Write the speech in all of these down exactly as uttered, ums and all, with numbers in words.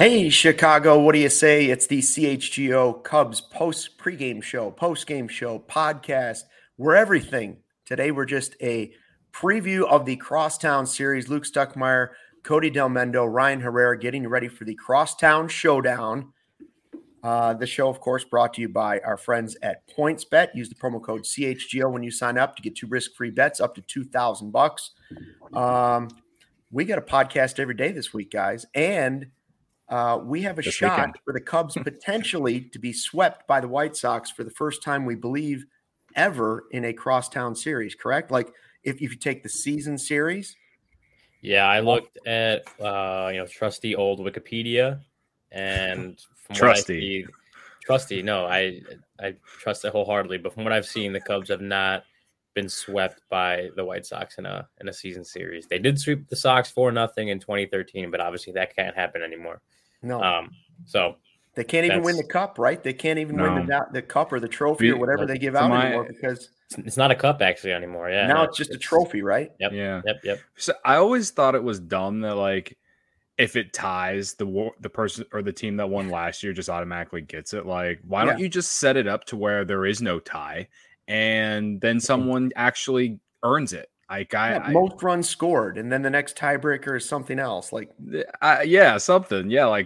Hey, Chicago, what do you say? It's the C H G O Cubs post pregame show, post-game show, podcast. We're everything. Today, we're just a preview of the Crosstown series. Luke Stuckmeyer, Cody Del Mendo, Ryan Herrera getting ready for the Crosstown Showdown. Uh, the show, of course, brought to you by our friends at PointsBet. Use the promo code C H G O when you sign up to get two risk-free bets up to two thousand bucks. Um, we got a podcast every day this week, guys, and Uh, we have a this shot weekend. for the Cubs potentially to be swept by the White Sox for the first time, we believe, ever in a crosstown series, correct? Like if, if you take the season series. Yeah, I looked at, uh, you know, trusty old Wikipedia, and from Trusty. what I see, trusty, no, I I trust it wholeheartedly, but from what I've seen, the Cubs have not been swept by the White Sox in a in a season series. They did sweep the Sox four nothing in twenty thirteen, but obviously that can't happen anymore. No, Um, so they can't even win the cup, right? They can't even win No. the the cup or the trophy or whatever Nope. they give To out my- anymore because it's, it's not a cup actually anymore. Yeah, now no, it's just a trophy, right? Yep. Yeah. Yep. Yep. So I always thought it was dumb that like if it ties the war, the person or the team that won last year just automatically gets it. Like, why don't Yeah. you just set it up to where there is no tie and then someone actually earns it? Like I, Yeah, I, most runs scored, and then the next tiebreaker is something else. Like I yeah, something. Yeah, like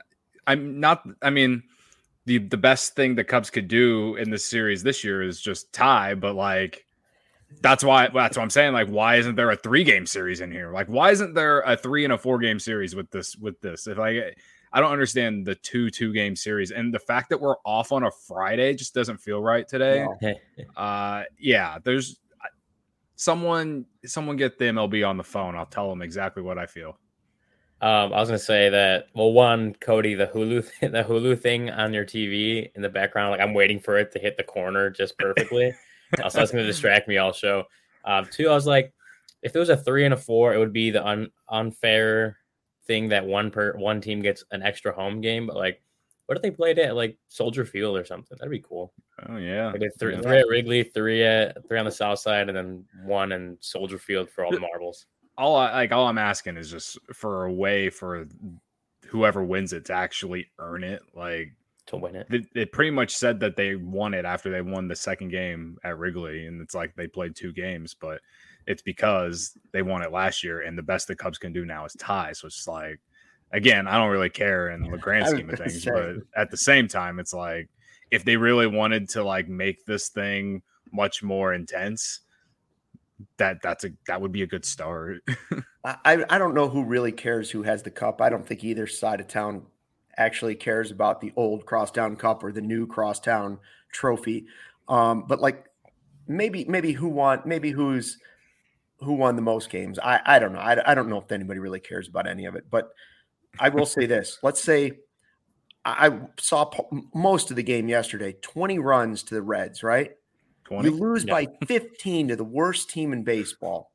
I'm not. I mean, the the best thing the Cubs could do in this series this year is just tie. But like, that's why that's what I'm saying. Like, why isn't there a three game series in here? Like, why isn't there a three and a four game series with this? With this, if I I don't understand the two two game series and the fact that we're off on a Friday just doesn't feel right today. no. Uh, yeah, there's someone someone get the M L B on the phone. I'll tell them exactly what I feel. Um, I was gonna say that. Well, one, Cody, the Hulu, the Hulu thing on your T V in the background, like I'm waiting for it to hit the corner just perfectly. uh, so that's gonna distract me all show. Um, two, I was like, if there was a three and a four, it would be the un- unfair thing that one per one team gets an extra home game. But like, what if they played it at like Soldier Field or something? That'd be cool. Oh yeah, Like three, yeah. three at Wrigley, three at three on the South Side, and then one in Soldier Field for all the marbles. all I like all I'm asking is just for a way for whoever wins it to actually earn it. Like To win it. they, they pretty much said that they won it after they won the second game at Wrigley, and it's like they played two games, but it's because they won it last year, and the best the Cubs can do now is tie. So it's like, again, I don't really care in the grand I was scheme of gonna things, say. but at the same time, it's like if they really wanted to like make this thing much more intense, that that's a that would be a good start. I, I don't know who really cares who has the cup. I don't think either side of town actually cares about the old Crosstown Cup or the new Crosstown Trophy. Um, but like maybe maybe who won maybe who's who won the most games. I, I don't know. I, I don't know if anybody really cares about any of it. But I will say this. Let's say I, I saw po- most of the game yesterday. twenty runs to the Reds, right? twenty You lose Yeah. by fifteen to the worst team in baseball.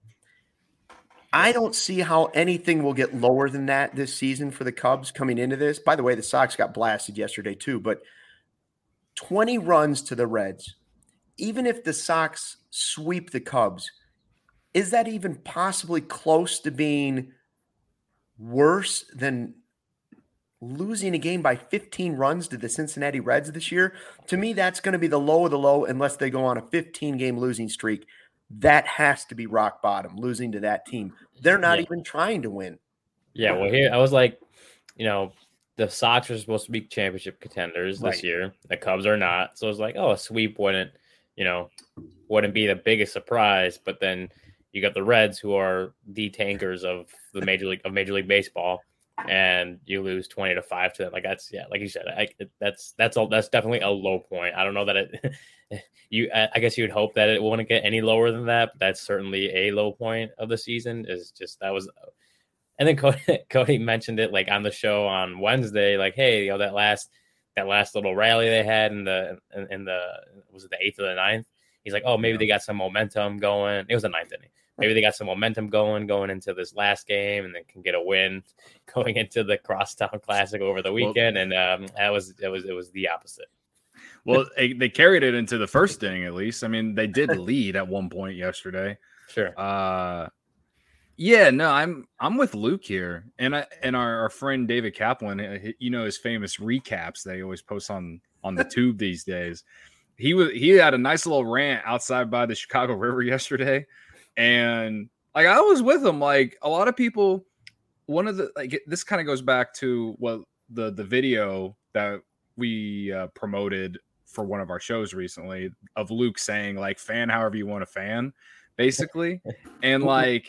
I don't see how anything will get lower than that this season for the Cubs coming into this. By the way, the Sox got blasted yesterday too, but twenty runs to the Reds. Even if the Sox sweep the Cubs, is that even possibly close to being worse than losing a game by fifteen runs to the Cincinnati Reds this year? To me, that's going to be the low of the low unless they go on a fifteen-game losing streak. That has to be rock bottom, losing to that team. They're not Yeah. even trying to win. Yeah, well, here I was like, you know, the Sox are supposed to be championship contenders this Right. year. The Cubs are not. So it's like, oh, a sweep wouldn't, you know, wouldn't be the biggest surprise. But then you got the Reds, who are the tankers of the major league of Major League Baseball, and you lose twenty to five to them. Like that's yeah, like you said, I, that's that's all. That's definitely a low point. I don't know that it. You, I guess you'd hope that it wouldn't get any lower than that, but that's certainly a low point of the season. Is just that was, and then Cody, Cody mentioned it like on the show on Wednesday, like, hey, you know that last that last little rally they had in the in, in the was it the eighth or the ninth? He's like, oh, maybe they got some momentum going. It was the ninth inning. Maybe they got some momentum going going into this last game, and then can get a win going into the Crosstown Classic over the weekend. And um, that was it was it was the opposite. Well, they, they carried it into the first inning, at least. I mean, they did lead at one point yesterday. Sure. Uh, Yeah, no, I'm I'm with Luke here, and I and our, our friend David Kaplan. You know his famous recaps that he always posts on on the tube these days. He was he had a nice little rant outside by the Chicago River yesterday, and like I was with him. Like a lot of people, one of the like this kind of goes back to what the the video that we uh, promoted for one of our shows recently of Luke saying like fan however you want to fan, basically, and like.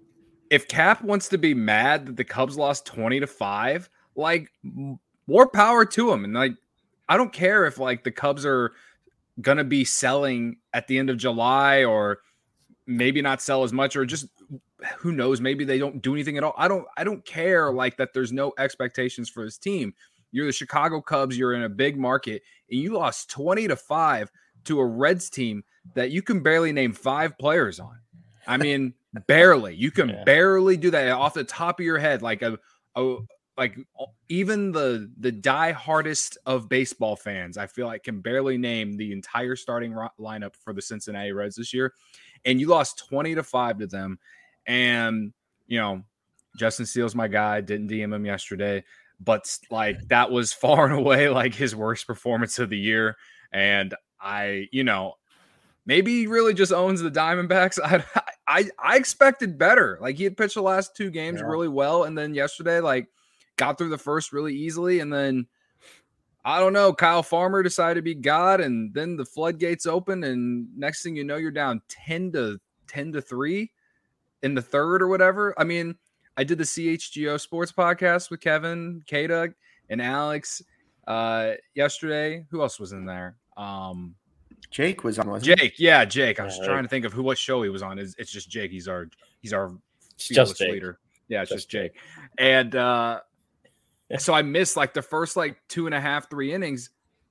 If Cap wants to be mad that the Cubs lost twenty to five, like more power to him. And like, I don't care if like the Cubs are going to be selling at the end of July or maybe not sell as much or just who knows, maybe they don't do anything at all. I don't, I don't care like that. There's no expectations for this team. You're the Chicago Cubs. You're in a big market and you lost twenty to five to a Reds team that you can barely name five players on. I mean, barely. You can yeah. barely do that off the top of your head. Like a, a like even the the die hardest of baseball fans, I feel like can barely name the entire starting ro- lineup for the Cincinnati Reds this year. And you lost twenty to five to them. And you know, Justin Steele's my guy. Didn't D M him yesterday, but like that was far and away like his worst performance of the year. And I, you know. Maybe he really just owns the Diamondbacks. I, I I expected better. Like he had pitched the last two games yeah. really well, and then yesterday, like got through the first really easily, and then I don't know. Kyle Farmer decided to be God, and then the floodgates open, and next thing you know, you're down ten to ten to three in the third or whatever. I mean, I did the C H G O Sports podcast with Kevin, K-Dug, and Alex uh, yesterday. Who else was in there? Um, Jake was on. Wasn't Jake, yeah, Jake. I was yeah, trying to think of who what show he was on. It's, it's just Jake. He's our he's our just leader. Yeah, it's just, just Jake. Jake. And uh, so I missed like the first like two and a half, three innings.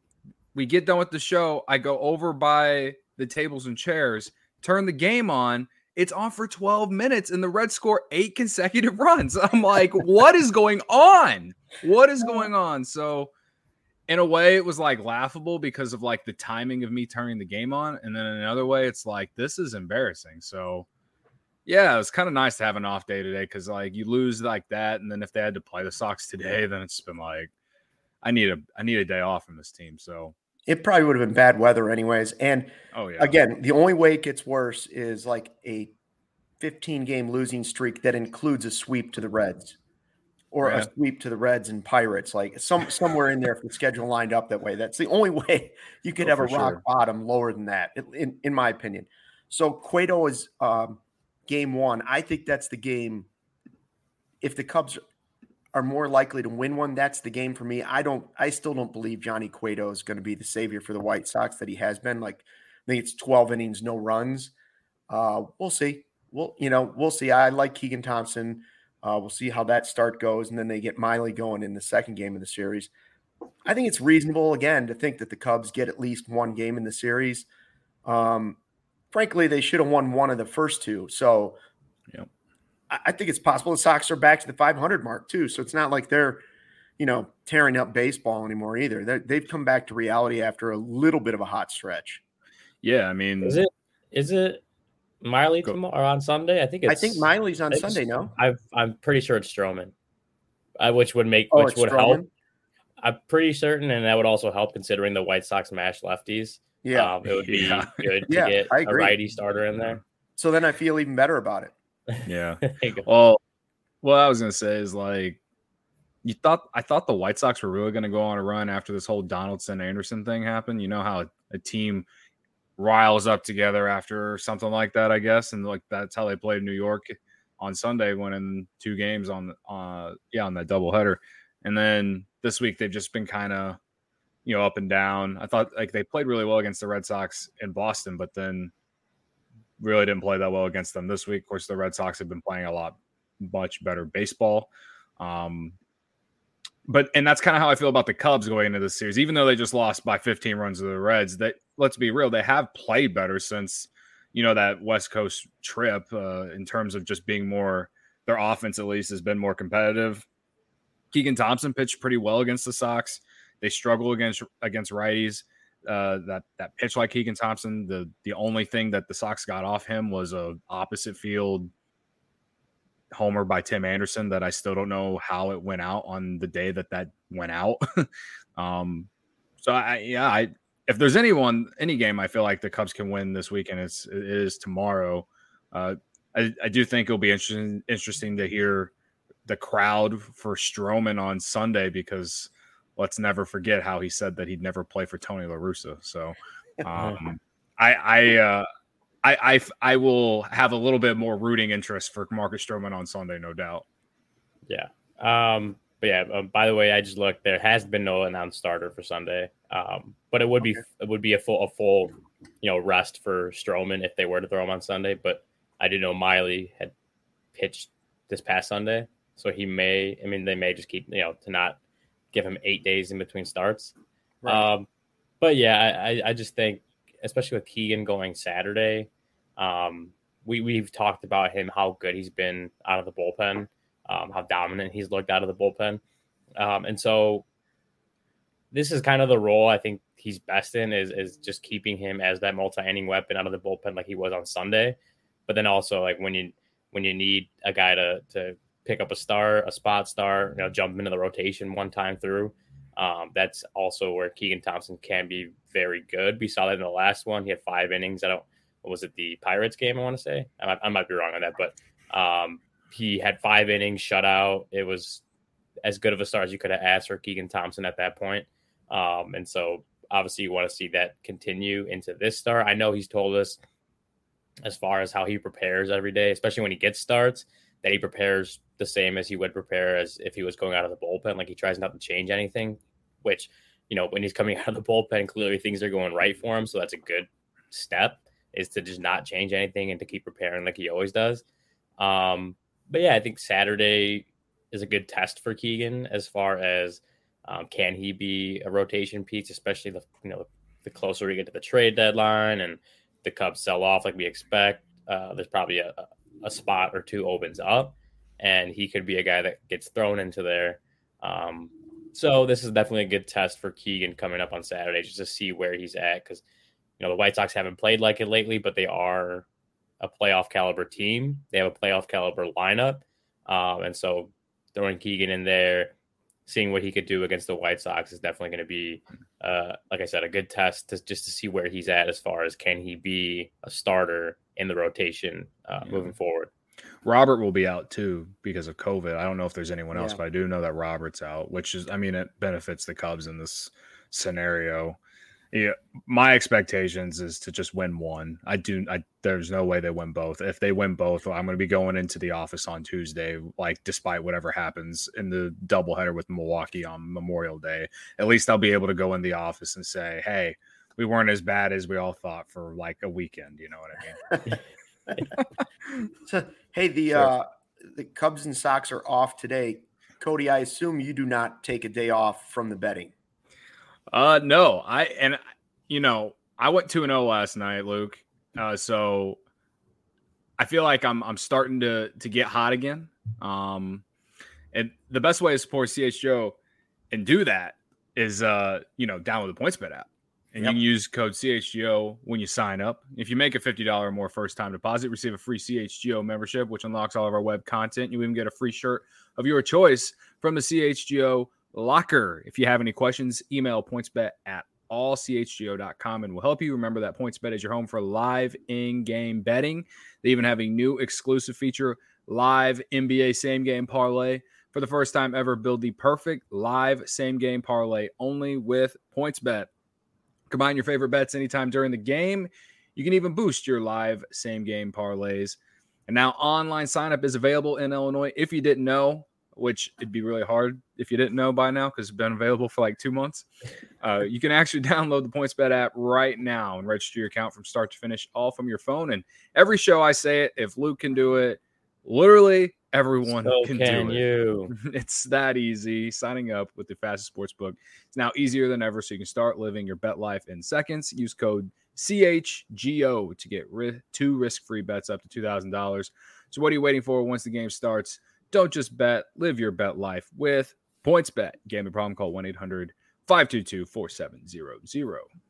We get done with the show. I go over by the tables and chairs, turn the game on. It's on for twelve minutes, and the Reds score eight consecutive runs. I'm like, what is going on? What is going on? So. In a way, it was like laughable because of like the timing of me turning the game on. And then in another way, it's like, this is embarrassing. So yeah, it was kind of nice to have an off day today. Cause like you lose like that. And then if they had to play the Sox today, then it's been like, I need a, I need a day off from this team. So it probably would have been bad weather anyways. And oh yeah, again, the only way it gets worse is like a fifteen game losing streak that includes a sweep to the Reds. Or yeah. a sweep to the Reds and Pirates, like some somewhere in there if the schedule lined up that way. That's the only way you could oh, have a rock sure. bottom lower than that, in, in my opinion. So Cueto is um, game one. I think that's the game. If the Cubs are more likely to win one, that's the game for me. I don't. I still don't believe Johnny Cueto is going to be the savior for the White Sox that he has been. Like I think it's twelve innings, no runs. Uh, we'll see. We'll you know we'll see. I like Keegan Thompson. Uh, we'll see how that start goes, and then they get Miley going in the second game of the series. I think it's reasonable, again, to think that the Cubs get at least one game in the series. Um, frankly, they should have won one of the first two. So yep. I, I think it's possible the Sox are back to the five hundred mark, too. So it's not like they're, you know, tearing up baseball anymore either. They're, they've come back to reality after a little bit of a hot stretch. Yeah, I mean. Is it? Is it? Miley tomorrow or on Sunday? I think it's. I think Miley's on Sunday. No, I've, I'm pretty sure it's Stroman, uh, which would make oh, which would Stroman? help. I'm pretty certain, and that would also help considering the White Sox mash lefties. Yeah, um, it would be yeah. good to yeah, get a righty starter in there. So then I feel even better about it. Yeah. Well, what I was gonna say is like, you thought I thought the White Sox were really gonna go on a run after this whole Donaldson Anderson thing happened. You know how a, a team riles up together after something like that, I guess, and like that's how they played New York on Sunday, winning two games on uh yeah on that doubleheader. And then this week they've just been kind of you know up and down. I thought like they played really well against the Red Sox in Boston, but then really didn't play that well against them this week. Of course, the Red Sox have been playing a lot much better baseball. Um, But and that's kind of how I feel about the Cubs going into this series, even though they just lost by fifteen runs to the Reds. That let's be real, they have played better since you know that West Coast trip uh, in terms of just being more. Their offense at least has been more competitive. Keegan Thompson pitched pretty well against the Sox. They struggle against against righties. Uh, that that pitch like Keegan Thompson, the the only thing that the Sox got off him was a opposite field homer by Tim Anderson that I still don't know how it went out on the day that that went out. um, so I, yeah, I, if there's anyone, any game I feel like the Cubs can win this weekend, it's, it is tomorrow. Uh, I, I do think it'll be interesting, interesting to hear the crowd for Stroman on Sunday, because let's never forget how he said that he'd never play for Tony La Russa. So um, I, I, uh, I, I, I will have a little bit more rooting interest for Marcus Stroman on Sunday, no doubt. Yeah. Um, but yeah, um, by the way, I just looked, there has been no announced starter for Sunday. Um, but it would okay. be, it would be a full, a full, you know, rest for Stroman if they were to throw him on Sunday. But I didn't know Miley had pitched this past Sunday. So he may, I mean, they may just keep, you know, to not give him eight days in between starts. Right. Um, but yeah, I, I just think, especially with Keegan going Saturday, um, we, we've talked about him, how good he's been out of the bullpen, um, how dominant he's looked out of the bullpen. Um, and so this is kind of the role I think he's best in, is, is just keeping him as that multi-inning weapon out of the bullpen like he was on Sunday. But then also, like, when you when you need a guy to to pick up a star, a spot star, you know, jump into the rotation one time through, um, that's also where Keegan Thompson can be very good. We saw that in the last one. He had five innings. I don't, what was it, the Pirates game, I want to say? I might, I might be wrong on that, but um, he had five innings, shutout. It was as good of a start as you could have asked for Keegan Thompson at that point. Um, and so obviously you want to see that continue into this start. I know he's told us, as far as how he prepares every day, especially when he gets starts, that he prepares the same as he would prepare as if he was going out of the bullpen. Like, he tries not to change anything, which, you know, when he's coming out of the bullpen, clearly things are going right for him. So that's a good step, is to just not change anything and to keep preparing like he always does. Um, but yeah, I think Saturday is a good test for Keegan as far as um, can he be a rotation piece, especially the, you know, the closer we get to the trade deadline and the Cubs sell off like we expect. Uh, there's probably a, a spot or two opens up, and he could be a guy that gets thrown into there. Um, so this is definitely a good test for Keegan coming up on Saturday, just to see where he's at. Because, you know, the White Sox haven't played like it lately, but they are a playoff caliber team. They have a playoff caliber lineup. Um, and so throwing Keegan in there, seeing what he could do against the White Sox is definitely going to be, uh, like I said, a good test to, just to see where he's at as far as can he be a starter in the rotation uh, yeah. moving forward. Robert will be out too because of COVID. I don't know if there's anyone else, yeah. but I do know that Robert's out, which is, I mean, it benefits the Cubs in this scenario. Yeah, my expectations is to just win one. I do. I there's no way they win both. If they win both, I'm going to be going into the office on Tuesday, like, despite whatever happens in the doubleheader with Milwaukee on Memorial Day. At least I'll be able to go in the office and say, "Hey, we weren't as bad as we all thought for like a weekend." You know what I mean? So, hey, the sure. uh, the Cubs and Sox are off today. Cody, I assume you do not take a day off from the betting. Uh, no, I, and you know, I went two and oh last night, Luke. Uh, so I feel like I'm, I'm starting to, to get hot again. Um, and the best way to support C H G O and do that is, uh, you know, download the PointsBet app, and yep. you can use code C H G O when you sign up. If you make a fifty dollars or more first time deposit, receive a free C H G O membership, which unlocks all of our web content. You even get a free shirt of your choice from the C H G O locker. If you have any questions, email pointsbet at all c h g o dot com and we'll help you. Remember that PointsBet is your home for live in-game betting. They even have a new exclusive feature, live N B A same-game parlay. For the first time ever, build the perfect live same-game parlay only with PointsBet. Combine your favorite bets anytime during the game. You can even boost your live same-game parlays. And now online sign-up is available in Illinois. If you didn't know, which it'd be really hard if you didn't know by now because it's been available for like two months. Uh, you can actually download the PointsBet app right now and register your account from start to finish, all from your phone. And every show I say it, if Luke can do it, literally everyone so can, can do you. it. It's that easy. Signing up with the fastest sports book. It's now easier than ever, so you can start living your bet life in seconds. Use code C H G O to get ri- two risk-free bets up to two thousand dollars. So what are you waiting for? Once the game starts, don't just bet, live your bet life with PointsBet. Gambling problem, call one eight hundred five two two four seven zero zero.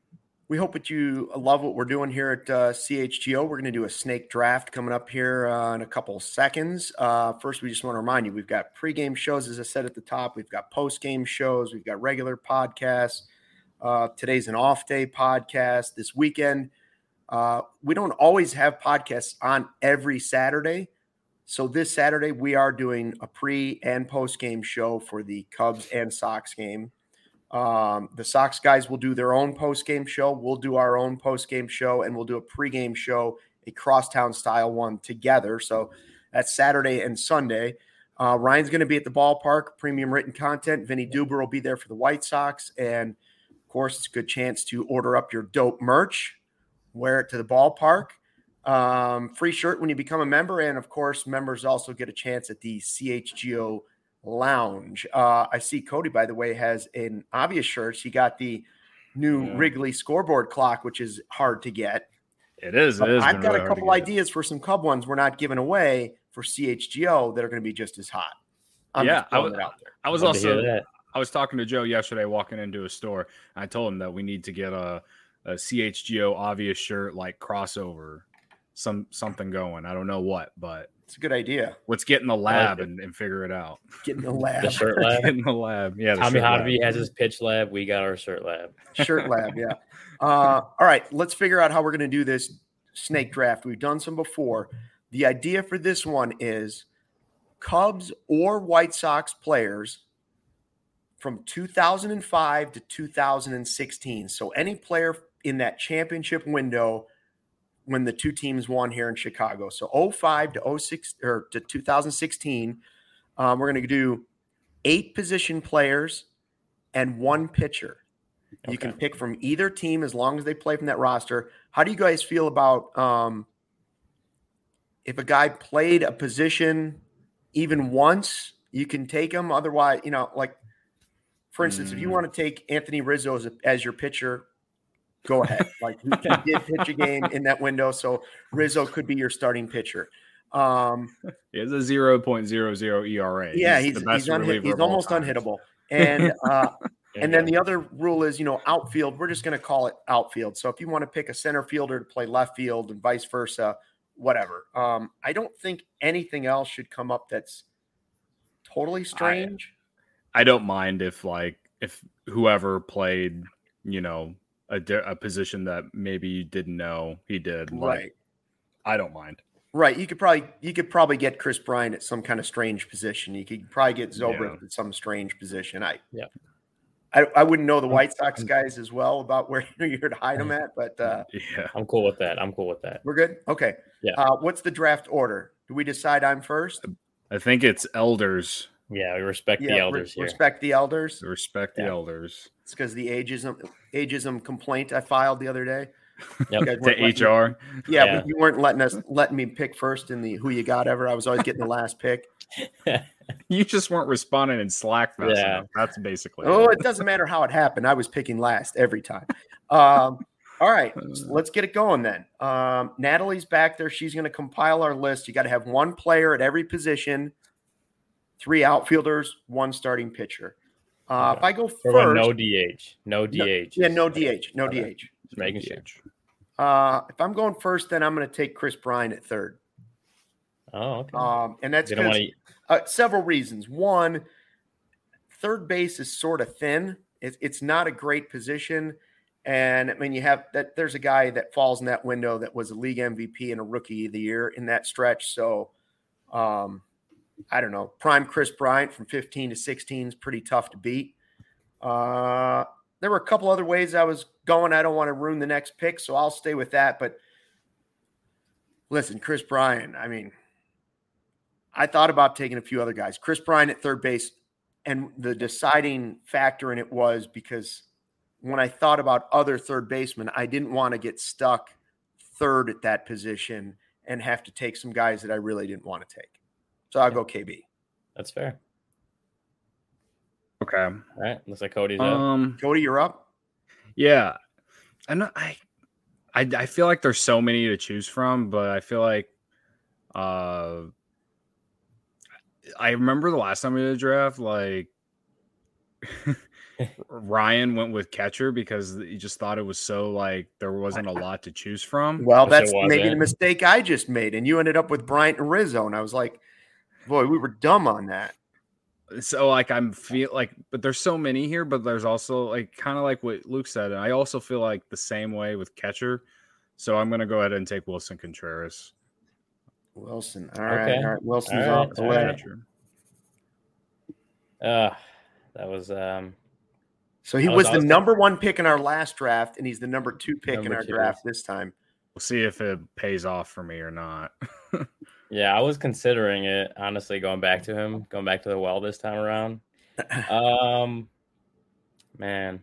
We hope that you love what we're doing here at uh, C H G O. We're going to do a snake draft coming up here uh, in a couple of seconds. Uh, first, we just want to remind you, we've got pregame shows, as I said at the top. We've got postgame shows. We've got regular podcasts. Uh, today's an off-day podcast. This weekend, uh, we don't always have podcasts on every Saturday. So this Saturday, we are doing a pre- and post-game show for the Cubs and Sox game. Um, the Sox guys will do their own post-game show. We'll do our own post-game show, and we'll do a pre-game show, a crosstown style one together. So that's Saturday and Sunday. Uh, Ryan's going to be at the ballpark, premium written content. Vinny Duber will be there for the White Sox. And, of course, it's a good chance to order up your dope merch, wear it to the ballpark. Um, free shirt when you become a member. And, of course, members also get a chance at the C H G O Lounge. Uh, I see Cody, by the way, has an obvious shirt. He got the new Yeah. Wrigley scoreboard clock, which is hard to get. It is. It is. I've got really a couple ideas for some Cub ones we're not giving away for C H G O that are going to be just as hot. I'm yeah, just I throwing was, it out there. I was Love to hear also that. I was talking to Joe yesterday walking into a store. And I told him that we need to get a, a C H G O obvious shirt like crossover, some something going. I don't know what, but It's a good idea. let's get in the lab it. and, and figure it out. Get in the lab. The shirt lab. Get in the lab. Yeah. the Tommy shirt lab. Hodby has his pitch lab. We got our shirt lab. Shirt lab, yeah. Uh, all right, let's figure out how we're going to do this snake draft. We've done some before. The idea for this one is Cubs or White Sox players from two thousand five to two thousand sixteen. So any player in that championship window when the two teams won here in Chicago. So oh five to oh six or to two thousand sixteen. Um, we're going to do eight position players and one pitcher. You Okay. can pick from either team as long as they play from that roster. How do you guys feel about um, if a guy played a position even once, you can take him. Otherwise, you know, like, for instance, if you Mm. want to take Anthony Rizzo as, a, as your pitcher, go ahead. Like, he did pitch a game in that window, so Rizzo could be your starting pitcher. Um, He has a zero point zero zero E R A. yeah, he's the he's, best unhit, reliever he's of all almost time. unhittable. And uh, There and you then go. the other rule is, you know, outfield. We're just going to call it outfield. So if you want to pick a center fielder to play left field and vice versa, whatever. Um, I don't think anything else should come up that's totally strange. I don't mind if like if whoever played, you know, a, di- a position that maybe you didn't know he did. Like, right. I don't mind. Right. You could probably you could probably get Chris Bryant at some kind of strange position. You could probably get Zobrist Yeah. at some strange position. I Yeah. I, I wouldn't know the White Sox guys as well about where you're to hide them at, but uh, Yeah. I'm cool with that. I'm cool with that. we're good. Okay. Yeah. Uh, what's the draft order? Do we decide I'm first? I think it's elders. Yeah, we respect the re- elders here. respect the elders. Respect the Yeah. elders. It's because the ageism ageism complaint I filed the other day. Yep. You guys weren't To letting H me- R. Yeah, Yeah. you weren't letting us letting me pick first in the who you got ever. I was always getting the last pick. You just weren't responding in Slack fast Yeah. enough. That's basically Oh, it. it doesn't matter how it happened. I was picking last every time. Um, all right, so let's get it going then. Um, Natalie's back there. She's going to compile our list. You got to have one player at every position, three outfielders, one starting pitcher. Uh, If I go We're going first, no D H. No D H. yeah, no D H, no Okay. D H. Just making sure. Uh, if I'm going first, then I'm going to take Chris Bryant at third. Oh, okay. Um, and that's They don't because want uh, several reasons. One, third base is sort of thin. It, it's not a great position. And I mean, you have that there's a guy that falls in that window that was a league M V P and a rookie of the year in that stretch. So, um, I don't know. Prime Chris Bryant from fifteen to sixteen is pretty tough to beat. Uh, there were a couple other ways I was going. I don't want to ruin the next pick, so I'll stay with that. But listen, Chris Bryant, I mean, I thought about taking a few other guys. Chris Bryant at third base, and the deciding factor in it was because when I thought about other third basemen, I didn't want to get stuck third at that position and have to take some guys that I really didn't want to take. So I'll go K B. That's fair. Okay. All right. Looks like Cody's up. Um. Cody, you're up. Yeah, and I, I, I feel like there's so many to choose from, but I feel like, uh, I remember the last time we did a draft, like, Ryan went with catcher because he just thought it was so like there wasn't a lot to choose from. Well, Yes, it that's maybe the wasn't. mistake I just made, and you ended up with Bryant and Rizzo, and I was like, boy, we were dumb on that. So like I'm feel like, but there's so many here, but there's also like kind of like what Luke said, and I also feel like the same way with catcher. So I'm gonna go ahead and take Wilson Contreras. Wilson, all right, Okay. all right. Wilson's All off right, the all way. right. Uh, that was um. So he I was- was, I the was gonna- number one pick in our last draft, and he's the number two pick in Number our two. draft this time. We'll see if it pays off for me or not. Yeah, I was considering it, honestly, going back to him, going back to the well this time around. Um, man.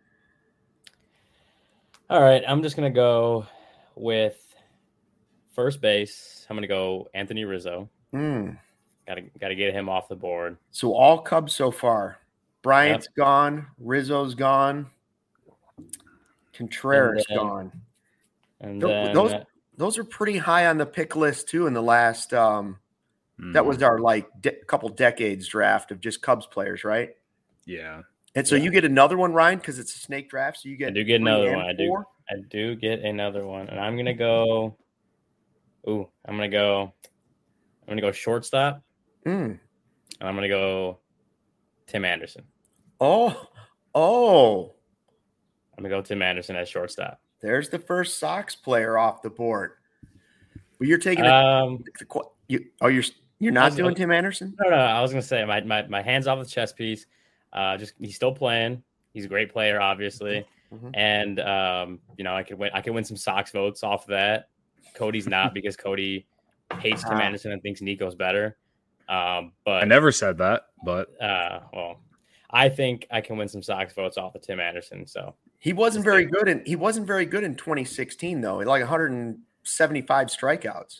All right, I'm just gonna go with first base. I'm gonna go Anthony Rizzo. Mm. Gotta gotta get him off the board. So all Cubs so far. Bryant's gone. Rizzo's gone. Contreras And then- gone. And Tho- then those those are pretty high on the pick list too. In the last, um, that Mm, was our like de- couple decades draft of just Cubs players, right? yeah. And so Yeah. you get another one, Ryan, because it's a snake draft. So you get I do get three another and one. I do. four? I do get another one, and I'm gonna go. Ooh, I'm gonna go. I'm gonna go shortstop, Mm. and I'm gonna go Tim Anderson. Oh, oh, I'm gonna go Tim Anderson as shortstop. there's the first Sox player off the board. But you're taking a, Um, the qu- you. Oh, you're you're I not was- doing Tim Anderson. no, no, I was gonna say my my, my hands off the chess piece. Uh, just he's still playing. He's a great player, obviously, Mhm. and um, you know I could win. I could win some Sox votes off of that. Cody's not because Cody hates Tim Ah. Anderson and thinks Nico's better. Um, but I never said that, but uh, well, I think I can win some Sox votes off of Tim Anderson. So He wasn't very good in he wasn't very good in twenty sixteen though. Like one hundred seventy-five strikeouts.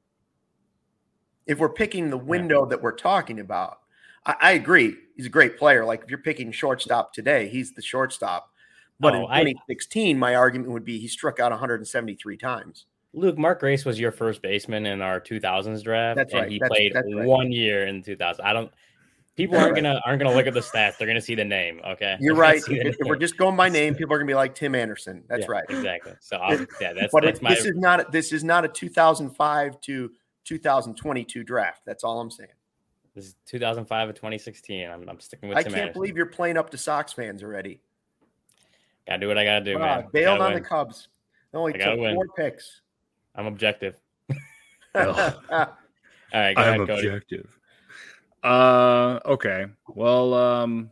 If we're picking the window that we're talking about, I, I agree. He's a great player. Like if you're picking shortstop today, he's the shortstop. But Oh, in I- twenty sixteen, my argument would be he struck out one hundred seventy-three times. Luke, Mark Grace was your first baseman in our two thousands draft, That's and right. he That's- played that's right. one year in two thousand. I don't. People aren't gonna aren't gonna look at the stats. They're gonna see the name. Okay, You're They're gonna right. see the If, if we're name. just going by name, people are gonna be like Tim Anderson. That's Yeah, right. Exactly. So I'll, yeah, that's But that's it, my. this is not this is not a two thousand five to two thousand twenty-two draft. That's all I'm saying. This is two thousand five to twenty sixteen. I'm, I'm sticking with I Tim can't Anderson. believe you're playing up to Sox fans already. Gotta do what I gotta do, Wow, man. bailed Gotta on win. the Cubs. They only I gotta took win. four picks. I'm objective. Ugh. All right, go I'm ahead, Cody. objective. Uh, okay. Well, um,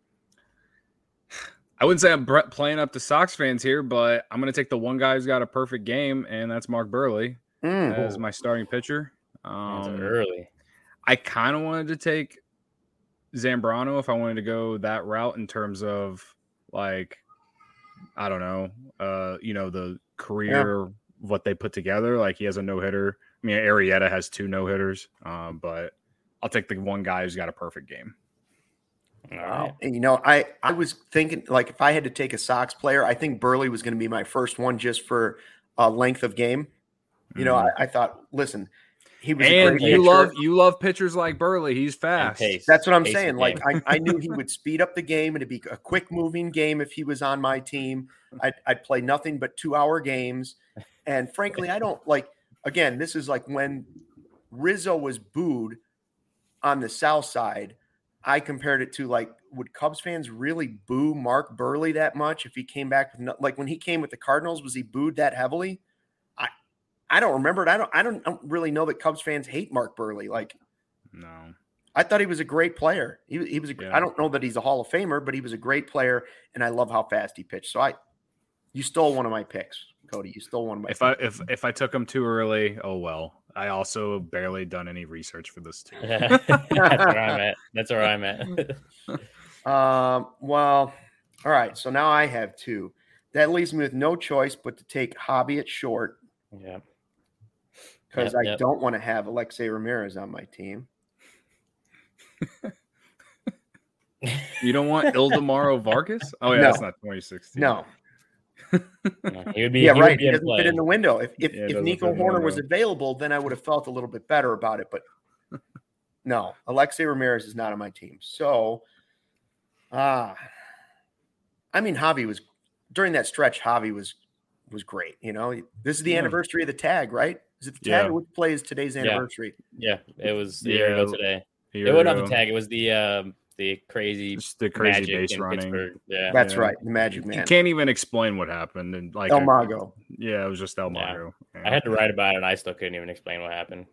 I wouldn't say I'm bre- playing up to Sox fans here, but I'm going to take the one guy who's got a perfect game, and that's Mark Burley Mm. as my starting pitcher. Hands are Um, early. I kind of wanted to take Zambrano if I wanted to go that route in terms of like, I don't know, uh, you know, the career, what they put together. Like he has a no hitter. I mean, Arrieta has two no hitters, um, but I'll take the one guy who's got a perfect game. All Wow. right. And, you know, I, I was thinking, like, if I had to take a Sox player, I think Burley was going to be my first one just for uh, length of game. You know, Mhm. I, I thought, listen, he was a and great you pitcher. love you love pitchers like Burley. He's And fast. pace. That's what I'm Pace of saying. Like, game. I, I knew he would speed up the game and it'd be a quick moving game if he was on my team. I'd, I'd play nothing but two hour games. And frankly, I don't like, again, this is like when Rizzo was booed on the South Side. I compared it to like, would Cubs fans really boo Mark Burley that much if he came back with no, like when he came with the Cardinals, was he booed that heavily? I I don't remember it. I don't I don't, I don't really know that Cubs fans hate Mark Burley. Like No. I thought he was a great player. He, he was. A, Yeah. I don't know that he's a Hall of Famer, but he was a great player, and I love how fast he pitched. So I, you stole one of my picks, Cody. You stole one of my. If I if if I took him too early, oh well. I also barely done any research for this too. That's where I'm at. That's where I'm at. Um. Well, all right. So now I have two. That leaves me with no choice but to take Hobby at short yeah. because Yep, I yep. don't want to have Alexei Ramirez on my team. You don't want Ildemaro Vargas? Oh yeah, No. that's not twenty sixteen. No. No, he would be. Yeah, he right. Would be He in doesn't play. fit in the window. If if, Yeah, it if doesn't Nico fit in the Horner was window. available, then I would have felt a little bit better about it. But no, Alexei Ramirez is not on my team. So, ah, I mean, Javi was during that stretch. Javi was was great. You know, this is the Yeah. anniversary of the tag, right? Is it the Yeah. tag or which play is today's Yeah. anniversary? Yeah, it was a Yeah, year ago today. a It year wasn't the ago. tag. It was the um, the crazy Just the crazy magic base in running. Pittsburgh. Yeah, That's Yeah. right, the Magic You Man, can't even explain what happened. And like El I- Mago. yeah, it was just El Yeah. Mago. I had to write about it, and I still couldn't even explain what happened.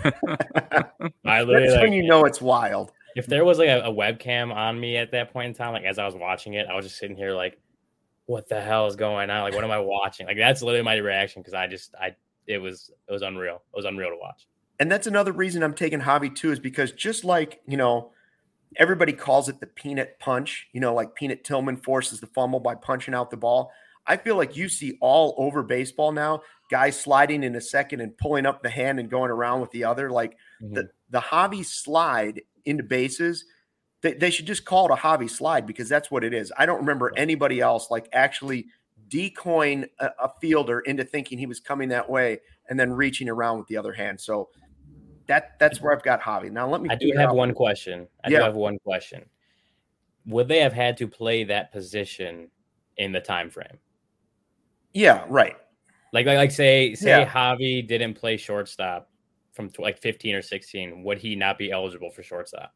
I That's literally, when like, you know it's wild. if there was like a, a webcam on me at that point in time, like as I was watching it, I was just sitting here like, what the hell is going on? Like, what am I watching? Like, that's literally my reaction because I just, I, it was, it was unreal. It was unreal to watch. And that's another reason I'm taking Javi too, is because just like, you know, everybody calls it the peanut punch, you know, like Peanut Tillman forces the fumble by punching out the ball. I feel like you see all over baseball now, guys sliding in a second and pulling up the hand and going around with the other. Like Mhm. the, the Javi slide into bases, they, they should just call it a Javi slide because that's what it is. I don't remember anybody else like actually decoying a, a fielder into thinking he was coming that way and then reaching around with the other hand. So that that's where I've got Javi. Now let me I do figure have out- one question. I Yeah. do have one question. Would they have had to play that position in the time frame? Yeah, right. Like, like, like, say, say Yeah. Javi didn't play shortstop from tw- like fifteen or sixteen. Would he not be eligible for shortstop?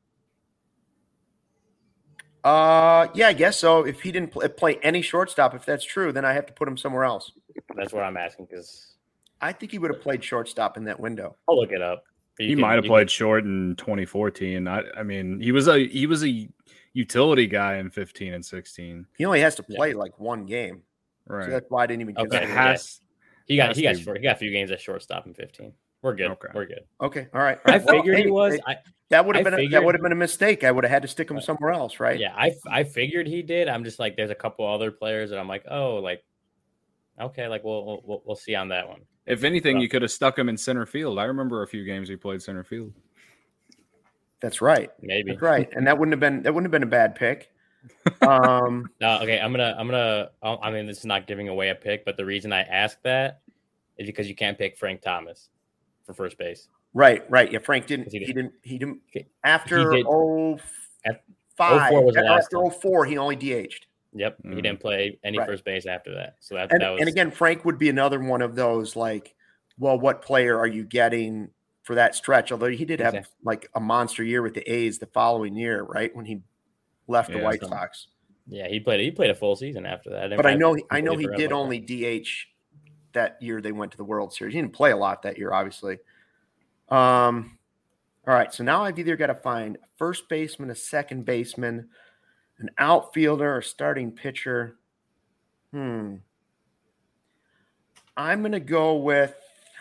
Uh, yeah, I guess so. If he didn't pl- play any shortstop, if that's true, then I have to put him somewhere else. That's what I'm asking because I think he would have played shortstop in that window. I'll look it up. You he can- might have you played can- short in twenty fourteen. I, I mean, he was a he was a utility guy in fifteen and sixteen. He only has to Yeah. play like one game, Right. so that's why I didn't even Okay. It consider it. has. He got has he to got be- short, he got a few games at shortstop in fifteen. We're good. Okay. We're good. Okay, all right. I Well, figured hey, he was. hey, I, that would have I been a, that figured- would have been a mistake. I would have had to stick him somewhere else, right? yeah, I I figured he did. I'm just like, there's a couple other players that I'm like, oh, like, okay, like we'll we'll, we'll see on that one. If anything, Rough. you could have stuck him in center field. I remember a few games he played center field. That's right. Maybe. That's right. And that wouldn't have been that wouldn't have been a bad pick. Um, No, okay. I'm gonna I'm gonna. I mean, this is not giving away a pick, but the reason I ask that is because you can't pick Frank Thomas for first base. right, right. Yeah, Frank didn't. He He did- didn't. He didn't. He After did- oh At- five, oh four was the or last after time. oh four, he only D H'd. Yep, he Mm. didn't play any Right. first base after that. So that And, that was and again, Frank would be another one of those like, well, what player are you getting for that stretch? Although he did have Exactly. like a monster year with the A's the following year, right? When he left the Yeah, White so- Sox. yeah. He played he played a full season after that. But I know, I completely know he forgot did about that. only D H that year they went to the World Series. He didn't play a lot that year, obviously. Um, all right, so now I've either got to find a first baseman, a second baseman, an outfielder, a starting pitcher. Hmm. I'm going to go with